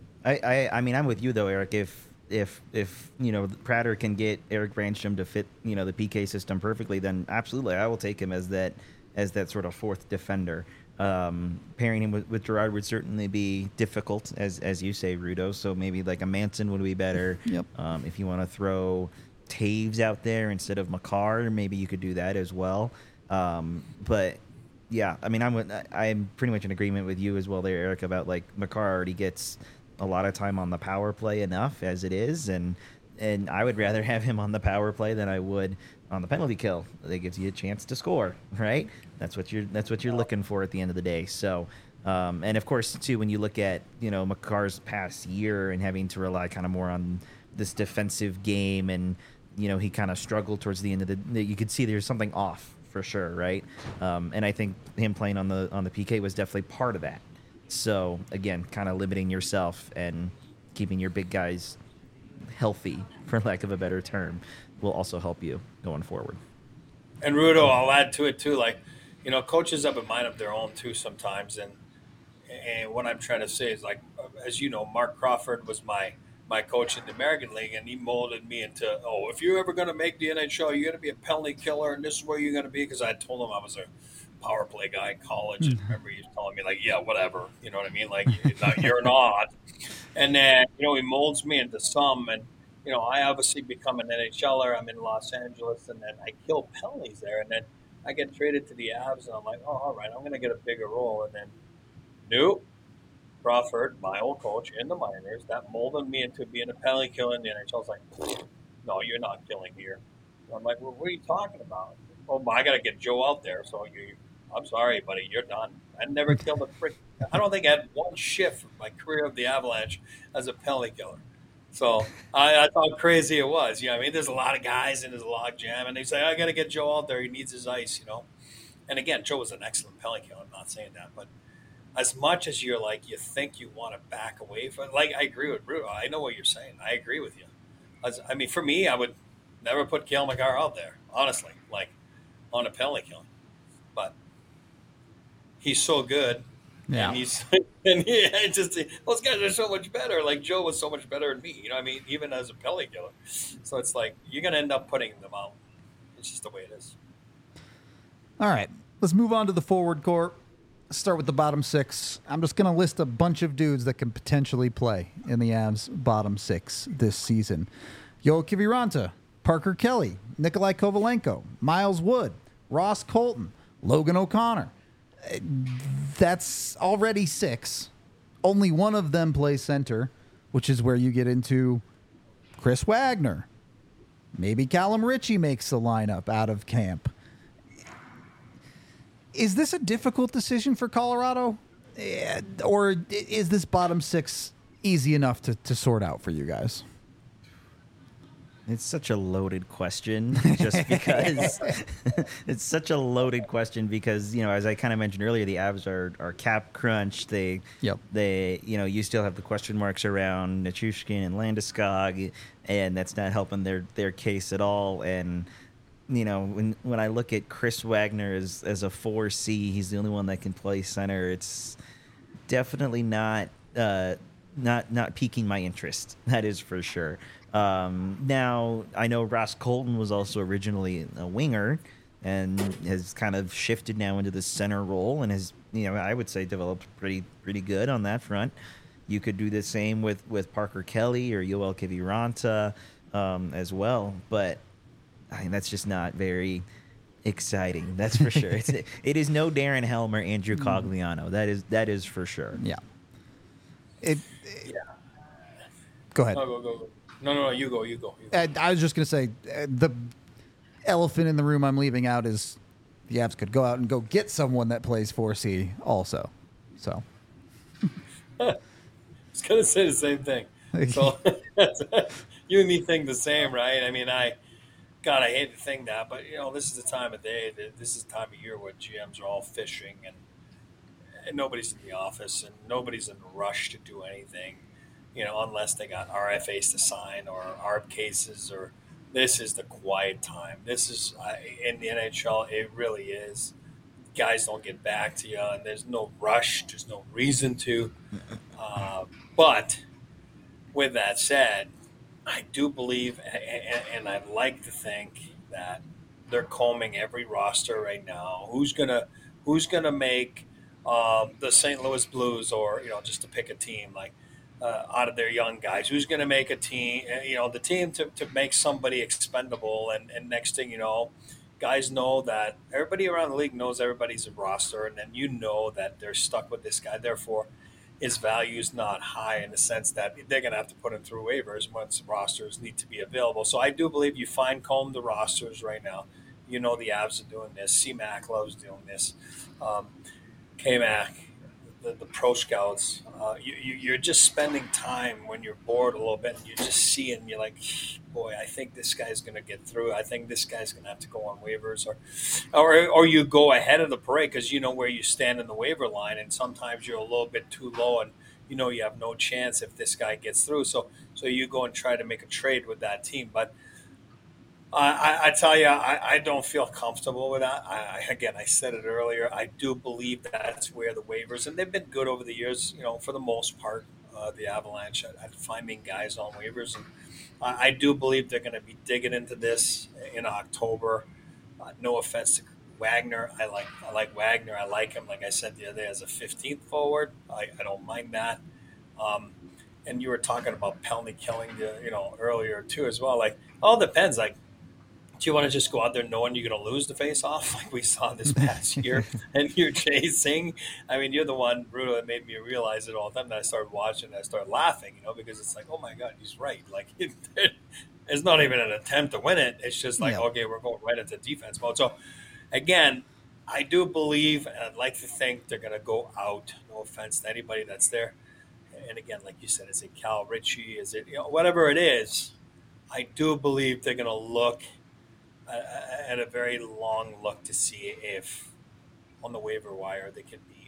I mean, I'm with you though, Eric. If Prater can get Erik Brandstrom to fit the PK system perfectly, then absolutely I will take him as that sort of fourth defender. Pairing him with Girard would certainly be difficult, as you say, Rudo. So maybe like a Manson would be better. Yep. If you want to throw Taves out there instead of Makar, maybe you could do that as well. But yeah, I mean, I'm pretty much in agreement with you as well there, Eric, about like Makar already gets a lot of time on the power play enough as it is, and I would rather have him on the power play than I would on the penalty kill. That gives you a chance to score, right? That's what you're looking for at the end of the day. So, and of course too, when you look at Makar's past year and having to rely kind of more on this defensive game, and he kind of struggled towards the end of you could see there's something off for sure, right? And I think him playing on the PK was definitely part of that. So again, kind of limiting yourself and keeping your big guys healthy, for lack of a better term, will also help you going forward. And Rudo, I'll add to it too. Like, coaches have a mind of their own too sometimes. And what I'm trying to say is, like, as you know, Mark Crawford was my coach in the American League, and he molded me into, if you're ever going to make the NHL, you're going to be a penalty killer, and this is where you're going to be. Because I told him I was a power play guy in college, and remember he was telling me, like, yeah, whatever, you know what I mean, like, you're not. And then he molds me into some, and I obviously become an NHLer. I'm in Los Angeles, and then I kill penalties there, and then I get traded to the Avs, and I'm like, all right, I'm going to get a bigger role. And then nope, Crawford, my old coach in the minors, that molded me into being a penalty killer in the NHL. I was like, no, you're not killing here. And I'm like, well, what are you talking about? Oh, I got to get Joe out there. So I'm sorry, buddy, you're done. I never killed a frick. I don't think I had one shift in my career of the Avalanche as a penalty killer. So I thought how crazy it was. I mean, there's a lot of guys in his log jam, and they say, I got to get Joe out there. He needs his ice, And again, Joe was an excellent penalty killer. I'm not saying that, but as much as you're like you think you want to back away from. Like I agree with Bruto. I know what you're saying. I agree with you. I mean, for me, I would never put Kale McCarr out there, honestly, like on a penalty killing. But he's so good, Yeah. and he's and he it just those guys are so much better. Like Joe was so much better than me. You know, what I mean, even as a penalty killer. So it's like you're gonna end up putting them out. It's just the way it is. All right, let's move on to the forward core. Let's start with the bottom six. I'm just going to list a bunch of dudes that can potentially play in the Avs bottom six this season. Yoel Kiviranta, Parker Kelly, Nikolai Kovalenko, Miles Wood, Ross Colton, Logan O'Connor. That's already six. Only one of them plays center, which is where you get into Chris Wagner. Maybe Callum Ritchie makes the lineup out of camp. Is this a difficult decision for Colorado? Or is this bottom six easy enough to sort out for you guys? It's such a loaded question just because it's such a loaded question because, you know, as I kind of mentioned earlier, the Avs are cap crunch. They, you know, you still have the question marks around Nichushkin and Landeskog, and that's not helping their case at all. And, you know, when I look at Chris Wagner as a 4C, he's the only one that can play center. It's definitely not piquing my interest. That is for sure. Now I know Ross Colton was also originally a winger and has kind of shifted now into the center role and has, you know, I would say developed pretty good on that front. You could do the same with Parker Kelly or Yoel Kiviranta as well, but I mean, that's just not very exciting. That's for sure. It is no Darren Helm or Andrew Cogliano. That is for sure. Yeah. Go ahead. Go. No, you go. I was just going to say the elephant in the room I'm leaving out is the Avs could go out and go get someone that plays 4C also. So I was going to say the same thing. So you and me think the same, right? I mean, I hate to think that, but you know, this is the time of day. This is the time of year where GMs are all fishing, and nobody's in the office, and nobody's in a rush to do anything. You know, unless they got RFAs to sign or ARB cases, or this is the quiet time. This is in the NHL. It really is. Guys don't get back to you, and there's no rush. There's no reason to. But with that said, I do believe, and I'd like to think that they're combing every roster right now. Who's gonna make the St. Louis Blues, or you know, just to pick a team like out of their young guys, who's going to make a team? You know, the team to make somebody expendable, and next thing you know, guys know that everybody around the league knows everybody's a roster, and then you know that they're stuck with this guy. Therefore, his value is not high in the sense that they're going to have to put him through waivers once rosters need to be available. So I do believe you fine-comb the rosters right now. You know the Avs are doing this. C-Mac loves doing this. K-Mac, the pro scouts. You're just spending time when you're bored a little bit, and you just see it, and you're like, boy, I think this guy's going to get through. I think this guy's going to have to go on waivers, or you go ahead of the parade because you know where you stand in the waiver line, and sometimes you're a little bit too low, and you know you have no chance if this guy gets through. So you go and try to make a trade with that team, but I tell you, I don't feel comfortable with that. I said it earlier. I do believe that's where the waivers, and they've been good over the years, you know, for the most part, the Avalanche at finding guys on waivers. And I do believe they're going to be digging into this in October. No offense to Wagner. I like Wagner. I like him, like I said the other day, as a 15th forward. I don't mind that. And you were talking about penalty killing, you know, earlier too as well. Like, all depends. Like, do you want to just go out there knowing you're going to lose the face-off like we saw this past year, and you're chasing? I mean, you're the one, Bruno, that made me realize it all the time. That I started watching and I started laughing, you know, because it's like, oh my God, he's right. Like, it's not even an attempt to win it. It's just like, okay, we're going right into defense mode. So, again, I do believe, and I'd like to think they're going to go out. No offense to anybody that's there. And again, like you said, is it Cal Ritchie? Is it, you know, whatever it is? I do believe they're going to look at a very long look to see if on the waiver wire they can be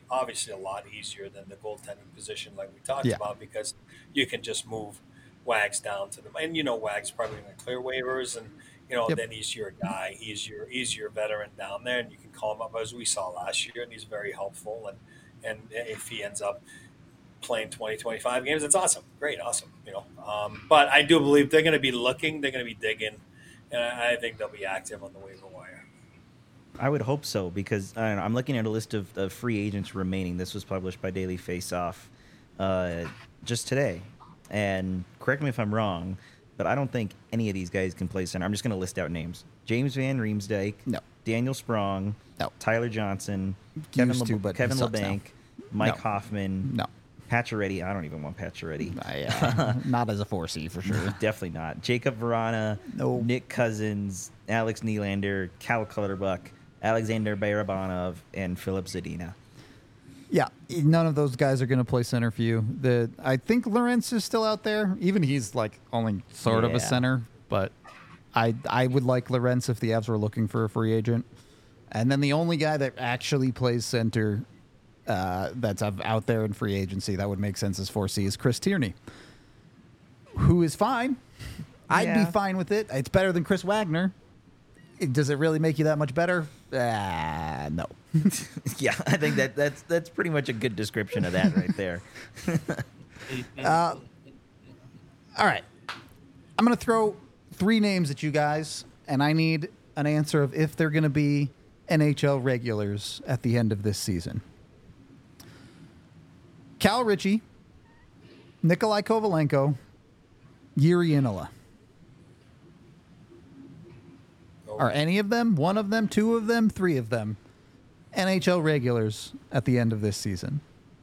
obviously a lot easier than the goaltending position, like we talked Yeah. about, because you can just move Wags down to them, and Wags probably going to clear waivers, and Yep. then he's your guy, he's your veteran down there, and you can call him up as we saw last year, and he's very helpful, and if he ends up playing 20, 25 games, that's awesome, great, awesome, But I do believe they're going to be looking, they're going to be digging, and I think they'll be active on the waiver wire. I would hope so, because I don't know, I'm looking at a list of free agents remaining. This was published by Daily Faceoff just today. And correct me if I'm wrong, but I don't think any of these guys can play center. I'm just going to list out names. James Van Riemsdyk. No. Daniel Sprong. No. Tyler Johnson. Used to, but Kevin he sucks LeBanc. now. Mike No. Hoffman. No. Pacioretty. I don't even want Pacioretty. Not as a 4C for sure. Definitely not. Jacob Verana. No. Nick Cousins. Alex Nylander. Cal Clutterbuck. Alexander Barabanov. And Philip Zadina. Yeah, none of those guys are going to play center for you. I think Lawrence is still out there. Even he's like only sort of a Yeah. center, but I would like Lawrence if the Avs were looking for a free agent. And then the only guy that actually plays center that's out there in free agency that would make sense as 4C is Chris Tierney, who is fine. I'd Yeah. be fine with it. It's better than Chris Wagner. Does it really make you that much better? No. Yeah, I think that's pretty much a good description of that right there. All right. I'm going to throw 3 names at you guys, and I need an answer of if they're going to be NHL regulars at the end of this season. Cal Ritchie, Nikolai Kovalenko, Yuri Inola. Are any of them, one of them, 2 of them, 3 of them NHL regulars at the end of this season?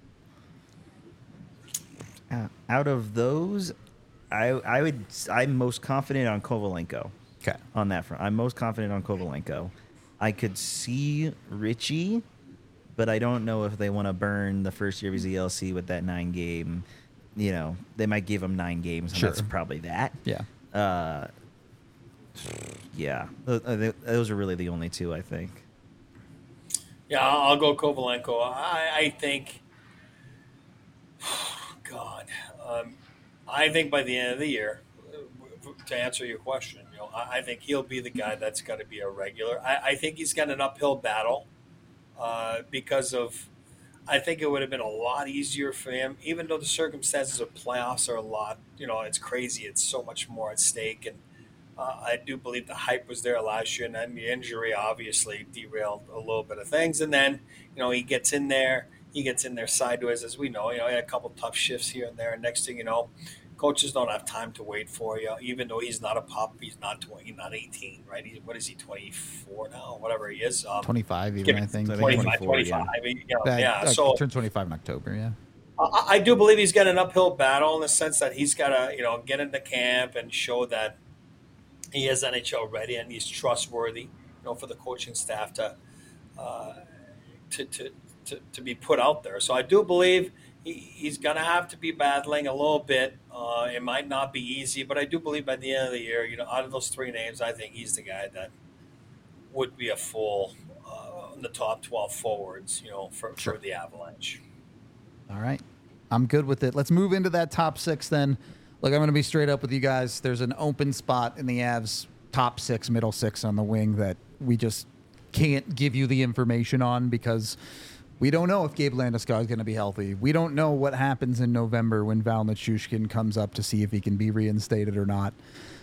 Out of those, I'm most confident on Kovalenko. Okay. On that front, I'm most confident on Kovalenko. I could see Richie, but I don't know if they want to burn the first year of his ELC with that 9 game. They might give him 9 games, and Sure. that's probably that. Yeah. Yeah, those are really the only 2, I think. Yeah, I'll go Kovalenko. I think, God, I think by the end of the year, to answer your question, I think he'll be the guy that's got to be a regular. I think he's got an uphill battle because of. I think it would have been a lot easier for him, even though the circumstances of playoffs are a lot. It's crazy. It's so much more at stake, and I do believe the hype was there last year, and then the injury obviously derailed a little bit of things. And then, he gets in there sideways, as we know. He had a couple tough shifts here and there. And next thing you know, coaches don't have time to wait for you. Even though he's not a pup, he's not 20, not 18, right? What is he, 24 now? Whatever he is. 25 even, I think. 25. 24, Yeah. So turned 25 in October, yeah. I do believe he's got an uphill battle in the sense that he's got to, get into camp and show that he is NHL ready and he's trustworthy, for the coaching staff to be put out there. So I do believe he's going to have to be battling a little bit. It might not be easy, but I do believe by the end of the year, out of those 3 names, I think he's the guy that would be a full in the top 12 forwards, for the Avalanche. All right. I'm good with it. Let's move into that top 6 then. Look, I'm going to be straight up with you guys. There's an open spot in the Avs top 6, middle 6 on the wing that we just can't give you the information on because we don't know if Gabe Landeskog is going to be healthy. We don't know what happens in November when Val Nichushkin comes up to see if he can be reinstated or not.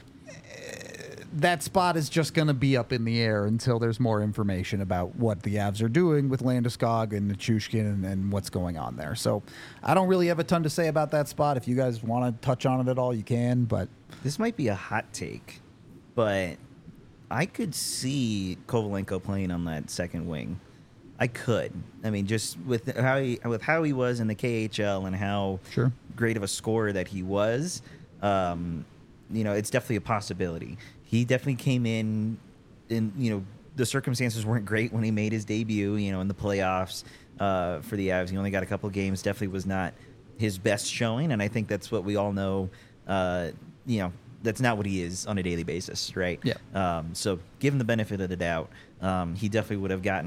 That spot is just going to be up in the air until there's more information about what the Avs are doing with Landeskog and Nichushkin and what's going on there. So I don't really have a ton to say about that spot. If you guys want to touch on it at all, you can. But This might be a hot take, but I could see Kovalenko playing on that second wing. I could. I mean, just with how he was in the KHL and how Sure. great of a scorer that he was, it's definitely a possibility. He definitely came in, the circumstances weren't great when he made his debut, in the playoffs for the Avs. He only got a couple games. Definitely was not his best showing, and I think that's what we all know. That's not what he is on a daily basis, right? Yeah. So give him the benefit of the doubt. He definitely would have gotten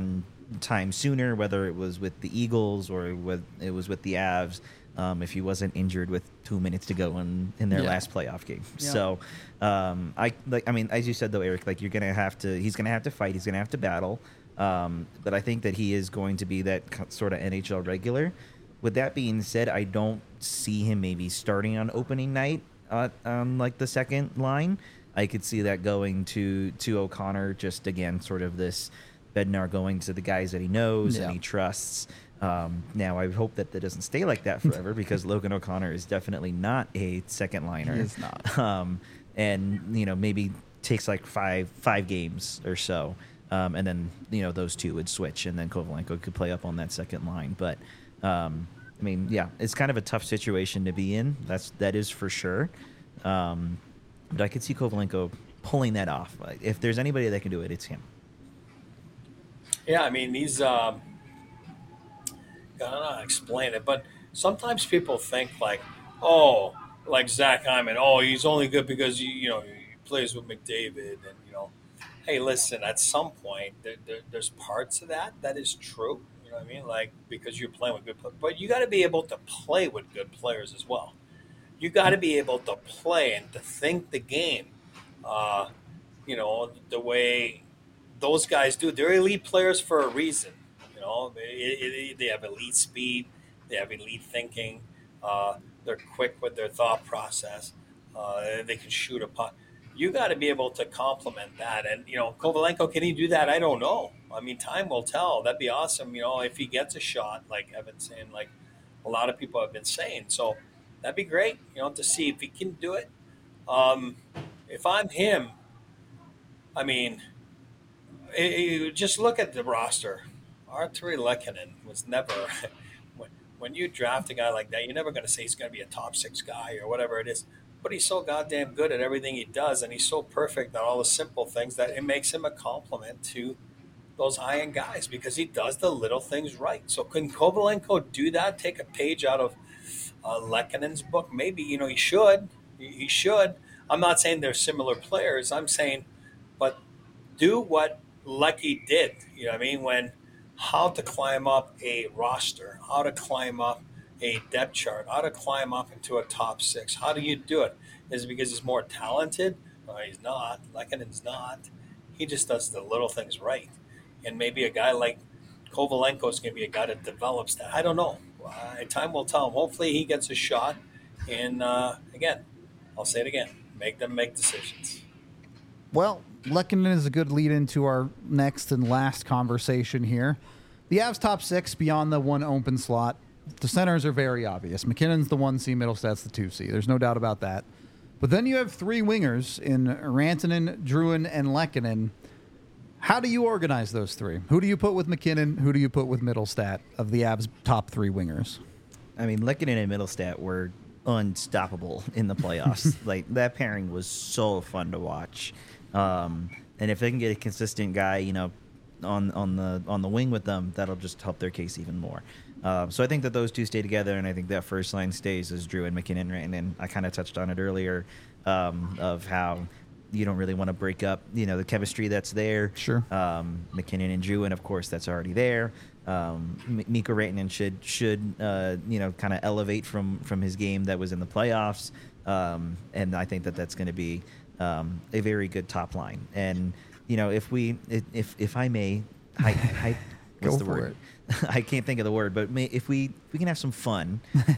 time sooner, whether it was with the Eagles or it was with the Avs. If he wasn't injured with 2 minutes to go in their last playoff game. Yeah. So, I mean, as you said though, Eric, like he's gonna have to fight, he's gonna have to battle. But I think that he is going to be that sort of NHL regular. With that being said, I don't see him maybe starting on opening night on like the second line. I could see that going to O'Connor, just again, sort of this Bednar going to the guys that he knows and he trusts. Now, I hope that doesn't stay like that forever because Logan O'Connor is definitely not a second liner. He is not. And, maybe takes like five games or so. And then, those two would switch and then Kovalenko could play up on that second line. But, I mean, yeah, it's kind of a tough situation to be in. That is for sure. But I could see Kovalenko pulling that off. If there's anybody that can do it, it's him. Yeah, I mean, he's I don't know how to explain it, but sometimes people think like Zach Hyman, he's only good because he plays with McDavid, and hey, listen, at some point there's parts of that is true. You know what I mean? Like, because you're playing with good players, but you got to be able to play with good players as well. You got to be able to play and to think the game, the way those guys do. They're elite players for a reason. They have elite speed. They have elite thinking. They're quick with their thought process. They can shoot a puck. You got to be able to complement that. And, Kovalenko, can he do that? I don't know. I mean, time will tell. That'd be awesome, if he gets a shot, like Evan's saying, like a lot of people have been saying. So that'd be great, to see if he can do it. If I'm him, I mean, just look at the roster. Artturi Lehkonen was never when you draft a guy like that, you're never going to say he's going to be a top 6 guy or whatever it is. But he's so goddamn good at everything he does, and he's so perfect at all the simple things that it makes him a compliment to those high-end guys because he does the little things right. So can Kovalenko do that? Take a page out of Lehkonen's book? Maybe, he should. He should. I'm not saying they're similar players. I'm saying, but do what Lecky did. You know what I mean? How to climb up a roster, how to climb up a depth chart, how to climb up into a top 6. How do you do it? Is it because he's more talented? No, he's not. Lehkonen's not. He just does the little things right. And maybe a guy like Kovalenko is going to be a guy that develops that. I don't know. Time will tell him. Hopefully he gets a shot. And again, I'll say it again, make them make decisions. Well, Lehkonen is a good lead into our next and last conversation here. The Avs top 6 beyond the one open slot. The centers are very obvious. McKinnon's the 1C, Middlestad's the 2C. There's no doubt about that. But then you have 3 wingers in Rantanen, Drouin, and Lehkonen. How do you organize those 3? Who do you put with McKinnon? Who do you put with Middlestad of the Avs' top 3 wingers? I mean, Lehkonen and Middlestad were unstoppable in the playoffs. Like, that pairing was so fun to watch. And if they can get a consistent guy, on the wing with them, that'll just help their case even more. So I think that those two stay together, and I think that first line stays as Drouin, McKinnon, right? And I kind of touched on it earlier of how you don't really want to break up, the chemistry that's there. Sure. McKinnon and Drouin, of course, that's already there. Mikko Rantanen should kind of elevate from his game that was in the playoffs, and I think that's going to be a very good top line. And if I may, what's the word? I can't think of the word, but if we can have some fun,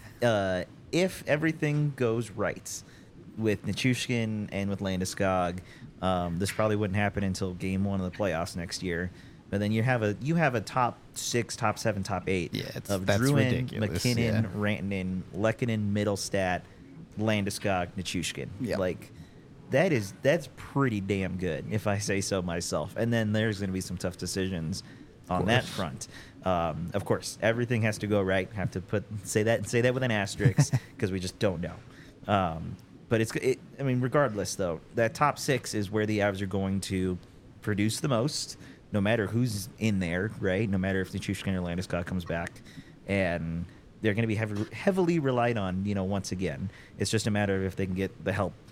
if everything goes right with Nichushkin and with Landeskog, this probably wouldn't happen until Game 1 of the playoffs next year. But then you have a top 6, top 7, top 8 of Drouin, McKinnon, Rantanen, Lehkonen, Middlestad, Landeskog, Nichushkin. Yeah. Like, that's pretty damn good, if I say so myself. And then there's going to be some tough decisions on that front. Of course, everything has to go right. Have to say that with an asterisk because we just don't know. But regardless though, that top 6 is where the Avs are going to produce the most, no matter who's in there, right? No matter if Nichushkin or Landeskog comes back, and they're going to be heavily relied on. Once again, it's just a matter of if they can get the help,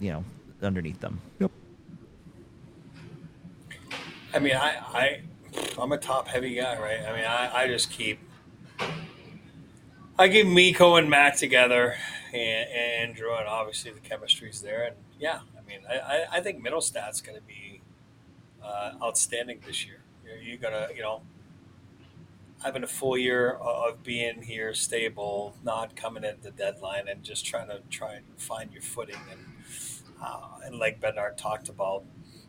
underneath them. Yep. I mean, I'm a top heavy guy, right? I mean, I just I keep Miko and Mac together, and Drew, and obviously the chemistry's there. And yeah, I mean, I think Middlestat's going to be outstanding this year. You're gonna, having a full year of being here, stable, not coming at the deadline, and just trying and find your footing. And like Bednar talked about,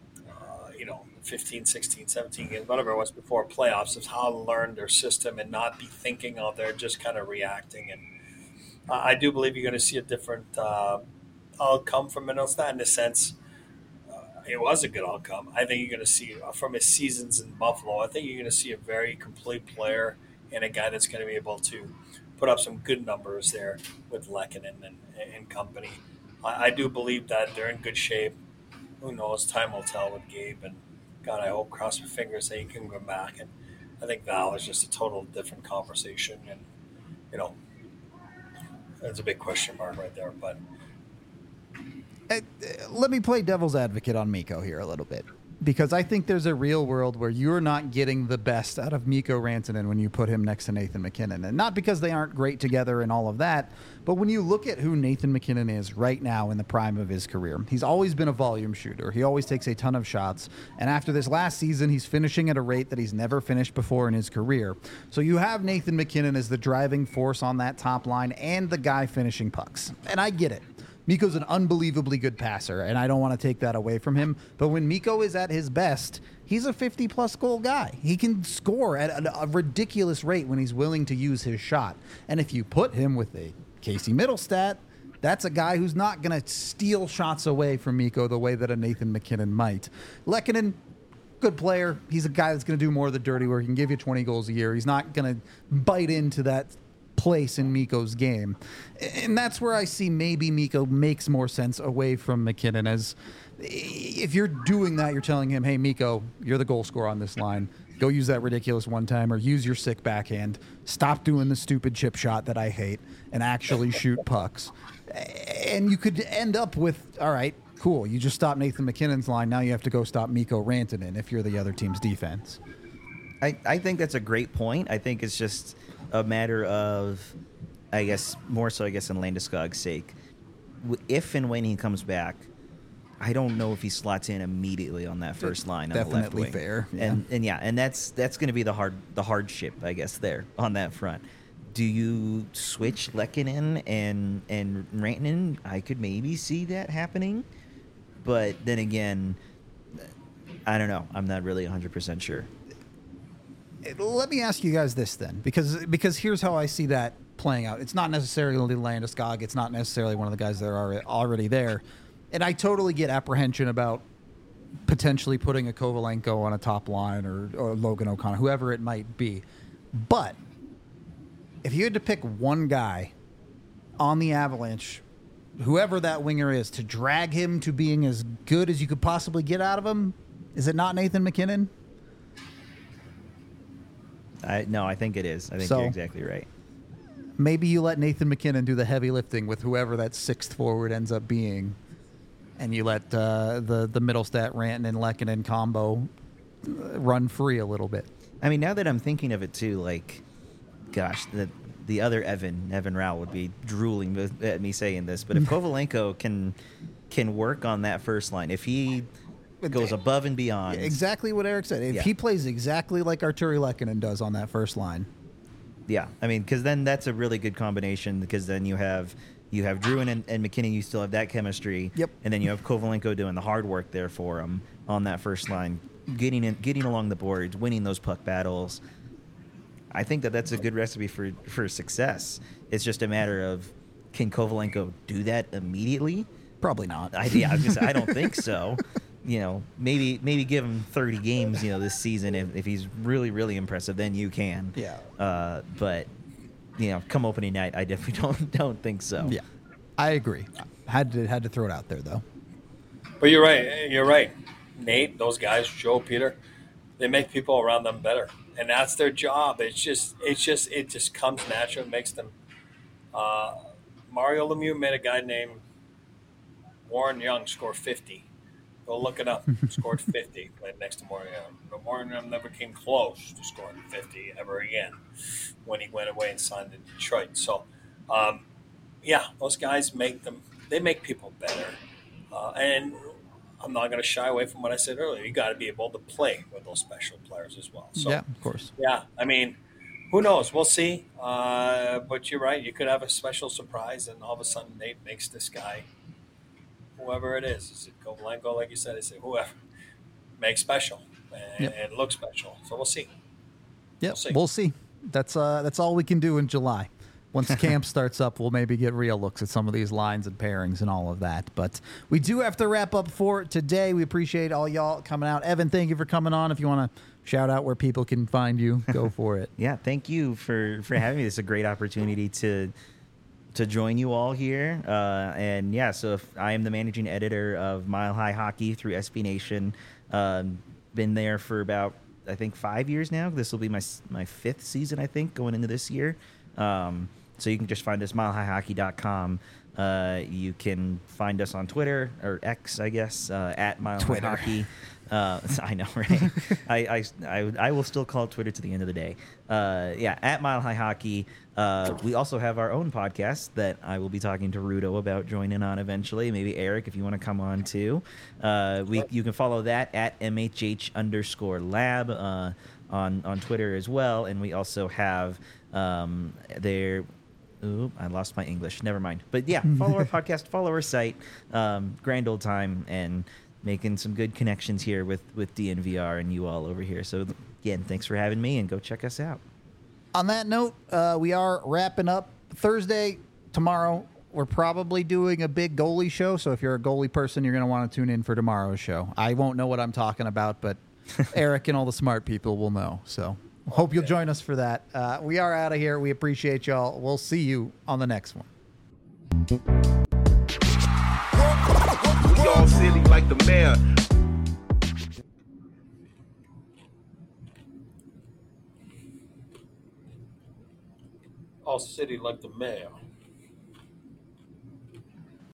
15, 16, 17 games, whatever it was before playoffs, is how to learn their system and not be thinking out there, just kind of reacting. And I do believe you're going to see a different outcome from Middlestat in the sense it was a good outcome. I think you're going to see from his seasons in Buffalo, I think you're going to see a very complete player and a guy that's going to be able to put up some good numbers there with Lehkonen and company. I do believe that they're in good shape. Who knows? Time will tell with Gabe. And God, I hope, cross my fingers, that he can go back. And I think Val is just a total different conversation. And, there's a big question mark right there. But Let me play devil's advocate on Mikko here a little bit, because I think there's a real world where you're not getting the best out of Mikko Rantanen when you put him next to Nathan MacKinnon. And not because they aren't great together and all of that, but when you look at who Nathan MacKinnon is right now in the prime of his career, he's always been a volume shooter. He always takes a ton of shots. And after this last season, he's finishing at a rate that he's never finished before in his career. So you have Nathan MacKinnon as the driving force on that top line and the guy finishing pucks. And I get it. Mikko's an unbelievably good passer, and I don't want to take that away from him. But when Mikko is at his best, he's a 50-plus goal guy. He can score at a ridiculous rate when he's willing to use his shot. And if you put him with a Casey Middlestat, that's a guy who's not going to steal shots away from Mikko the way that a Nathan MacKinnon might. Lehkonen, good player. He's a guy that's going to do more of the dirty work. He can give you 20 goals a year. He's not going to bite into that place in Mikko's game. And that's where I see maybe Mikko makes more sense away from MacKinnon, as if you're doing that, you're telling him, hey, Mikko, you're the goal scorer on this line. Go use that ridiculous one-timer. Use your sick backhand. Stop doing the stupid chip shot that I hate and actually shoot pucks. And you could end up with, all right, cool, you just stopped Nathan MacKinnon's line. Now you have to go stop Mikko Rantanen if you're the other team's defense. I think that's a great point. I think it's just a matter of, I guess, more so, in Landeskog's sake. If and when he comes back, I don't know if he slots in immediately on that first line on the left wing. Definitely fair. Yeah. And that's going to be the hardship, I guess, there on that front. Do you switch Lehkonen and Rantanen? I could maybe see that happening, but then again, I don't know. I'm not really 100% sure. Let me ask you guys this then, because here's how I see that playing out. It's not necessarily Landeskog. It's not necessarily one of the guys that are already there. And I totally get apprehension about potentially putting a Kovalenko on a top line or Logan O'Connor, whoever it might be. But if you had to pick one guy on the Avalanche, whoever that winger is, to drag him to being as good as you could possibly get out of him, is it not Nathan MacKinnon? No, I think it is. I think you're exactly right. Maybe you let Nathan MacKinnon do the heavy lifting with whoever that sixth forward ends up being, and you let the Middlestat, Rantanen, and Lehkonen combo run free a little bit. I mean, now that I'm thinking of it too, like, gosh, the other Evan Rao would be drooling at me saying this, but if Kovalenko can work on that first line, if he goes above and beyond. Exactly what Eric said. If he plays exactly like Arturi Lehkonen does on that first line. Yeah, I mean, because then that's a really good combination, because then you have Drew and MacKinnon, you still have that chemistry. Yep. And then you have Kovalenko doing the hard work there for him on that first line, getting along the boards, winning those puck battles. I think that's a good recipe for success. It's just a matter of, can Kovalenko do that immediately? Probably not. I don't think so. Maybe give him 30 games, this season if he's really, really impressive. Then you can. Yeah. But come opening night, I definitely don't think so. Yeah, I agree. Had to throw it out there though. But you're right. You're right. Nate, those guys, Joe, Peter, they make people around them better, and that's their job. It just comes natural. It makes them. Mario Lemieux made a guy named Warren Young score 50. Go look it up. Scored 50, played next to Moringham. But Moringham never came close to scoring 50 ever again when he went away and signed in Detroit. So, yeah, those guys they make people better. And I'm not going to shy away from what I said earlier. You got to be able to play with those special players as well. So, yeah, of course. yeah, I mean, who knows? We'll see. But you're right. You could have a special surprise, and all of a sudden Nate makes this guy, whoever it is it Kovalenko, like you said, is it whoever, make special and look special. So we'll see. Yep, we'll see. That's all we can do in July. Once camp starts up, we'll maybe get real looks at some of these lines and pairings and all of that. But we do have to wrap up for today. We appreciate all y'all coming out. Evan, thank you for coming on. If you want to shout out where people can find you, go for it. Yeah, thank you for having me. This is a great opportunity to join you all here. And yeah, so if I am the managing editor of Mile High Hockey through SB Nation. Been there for about, I think, 5 years now. This will be my fifth season, I think, going into this year. So you can just find us milehighhockey.com. You can find us on Twitter, or X, I guess, at Mile High Hockey. I know, right? I will still call it Twitter to the end of the day. Yeah, at Mile High Hockey. We also have our own podcast that I will be talking to Rudo about joining on eventually. Maybe Eric, if you want to come on too. You can follow that at MHH_lab on Twitter as well. And we also have their... Ooh, I lost my English. Never mind. But yeah, follow our podcast, follow our site. Grand old time, and making some good connections here with DNVR and you all over here. So again, thanks for having me, and go check us out. On that note, we are wrapping up Thursday. Tomorrow, we're probably doing a big goalie show. So if you're a goalie person, you're going to want to tune in for tomorrow's show. I won't know what I'm talking about, but Eric and all the smart people will know. So hope you'll join us for that. We are out of here. We appreciate y'all. We'll see you on the next one. We all silly like the mayor. All city like the mayor.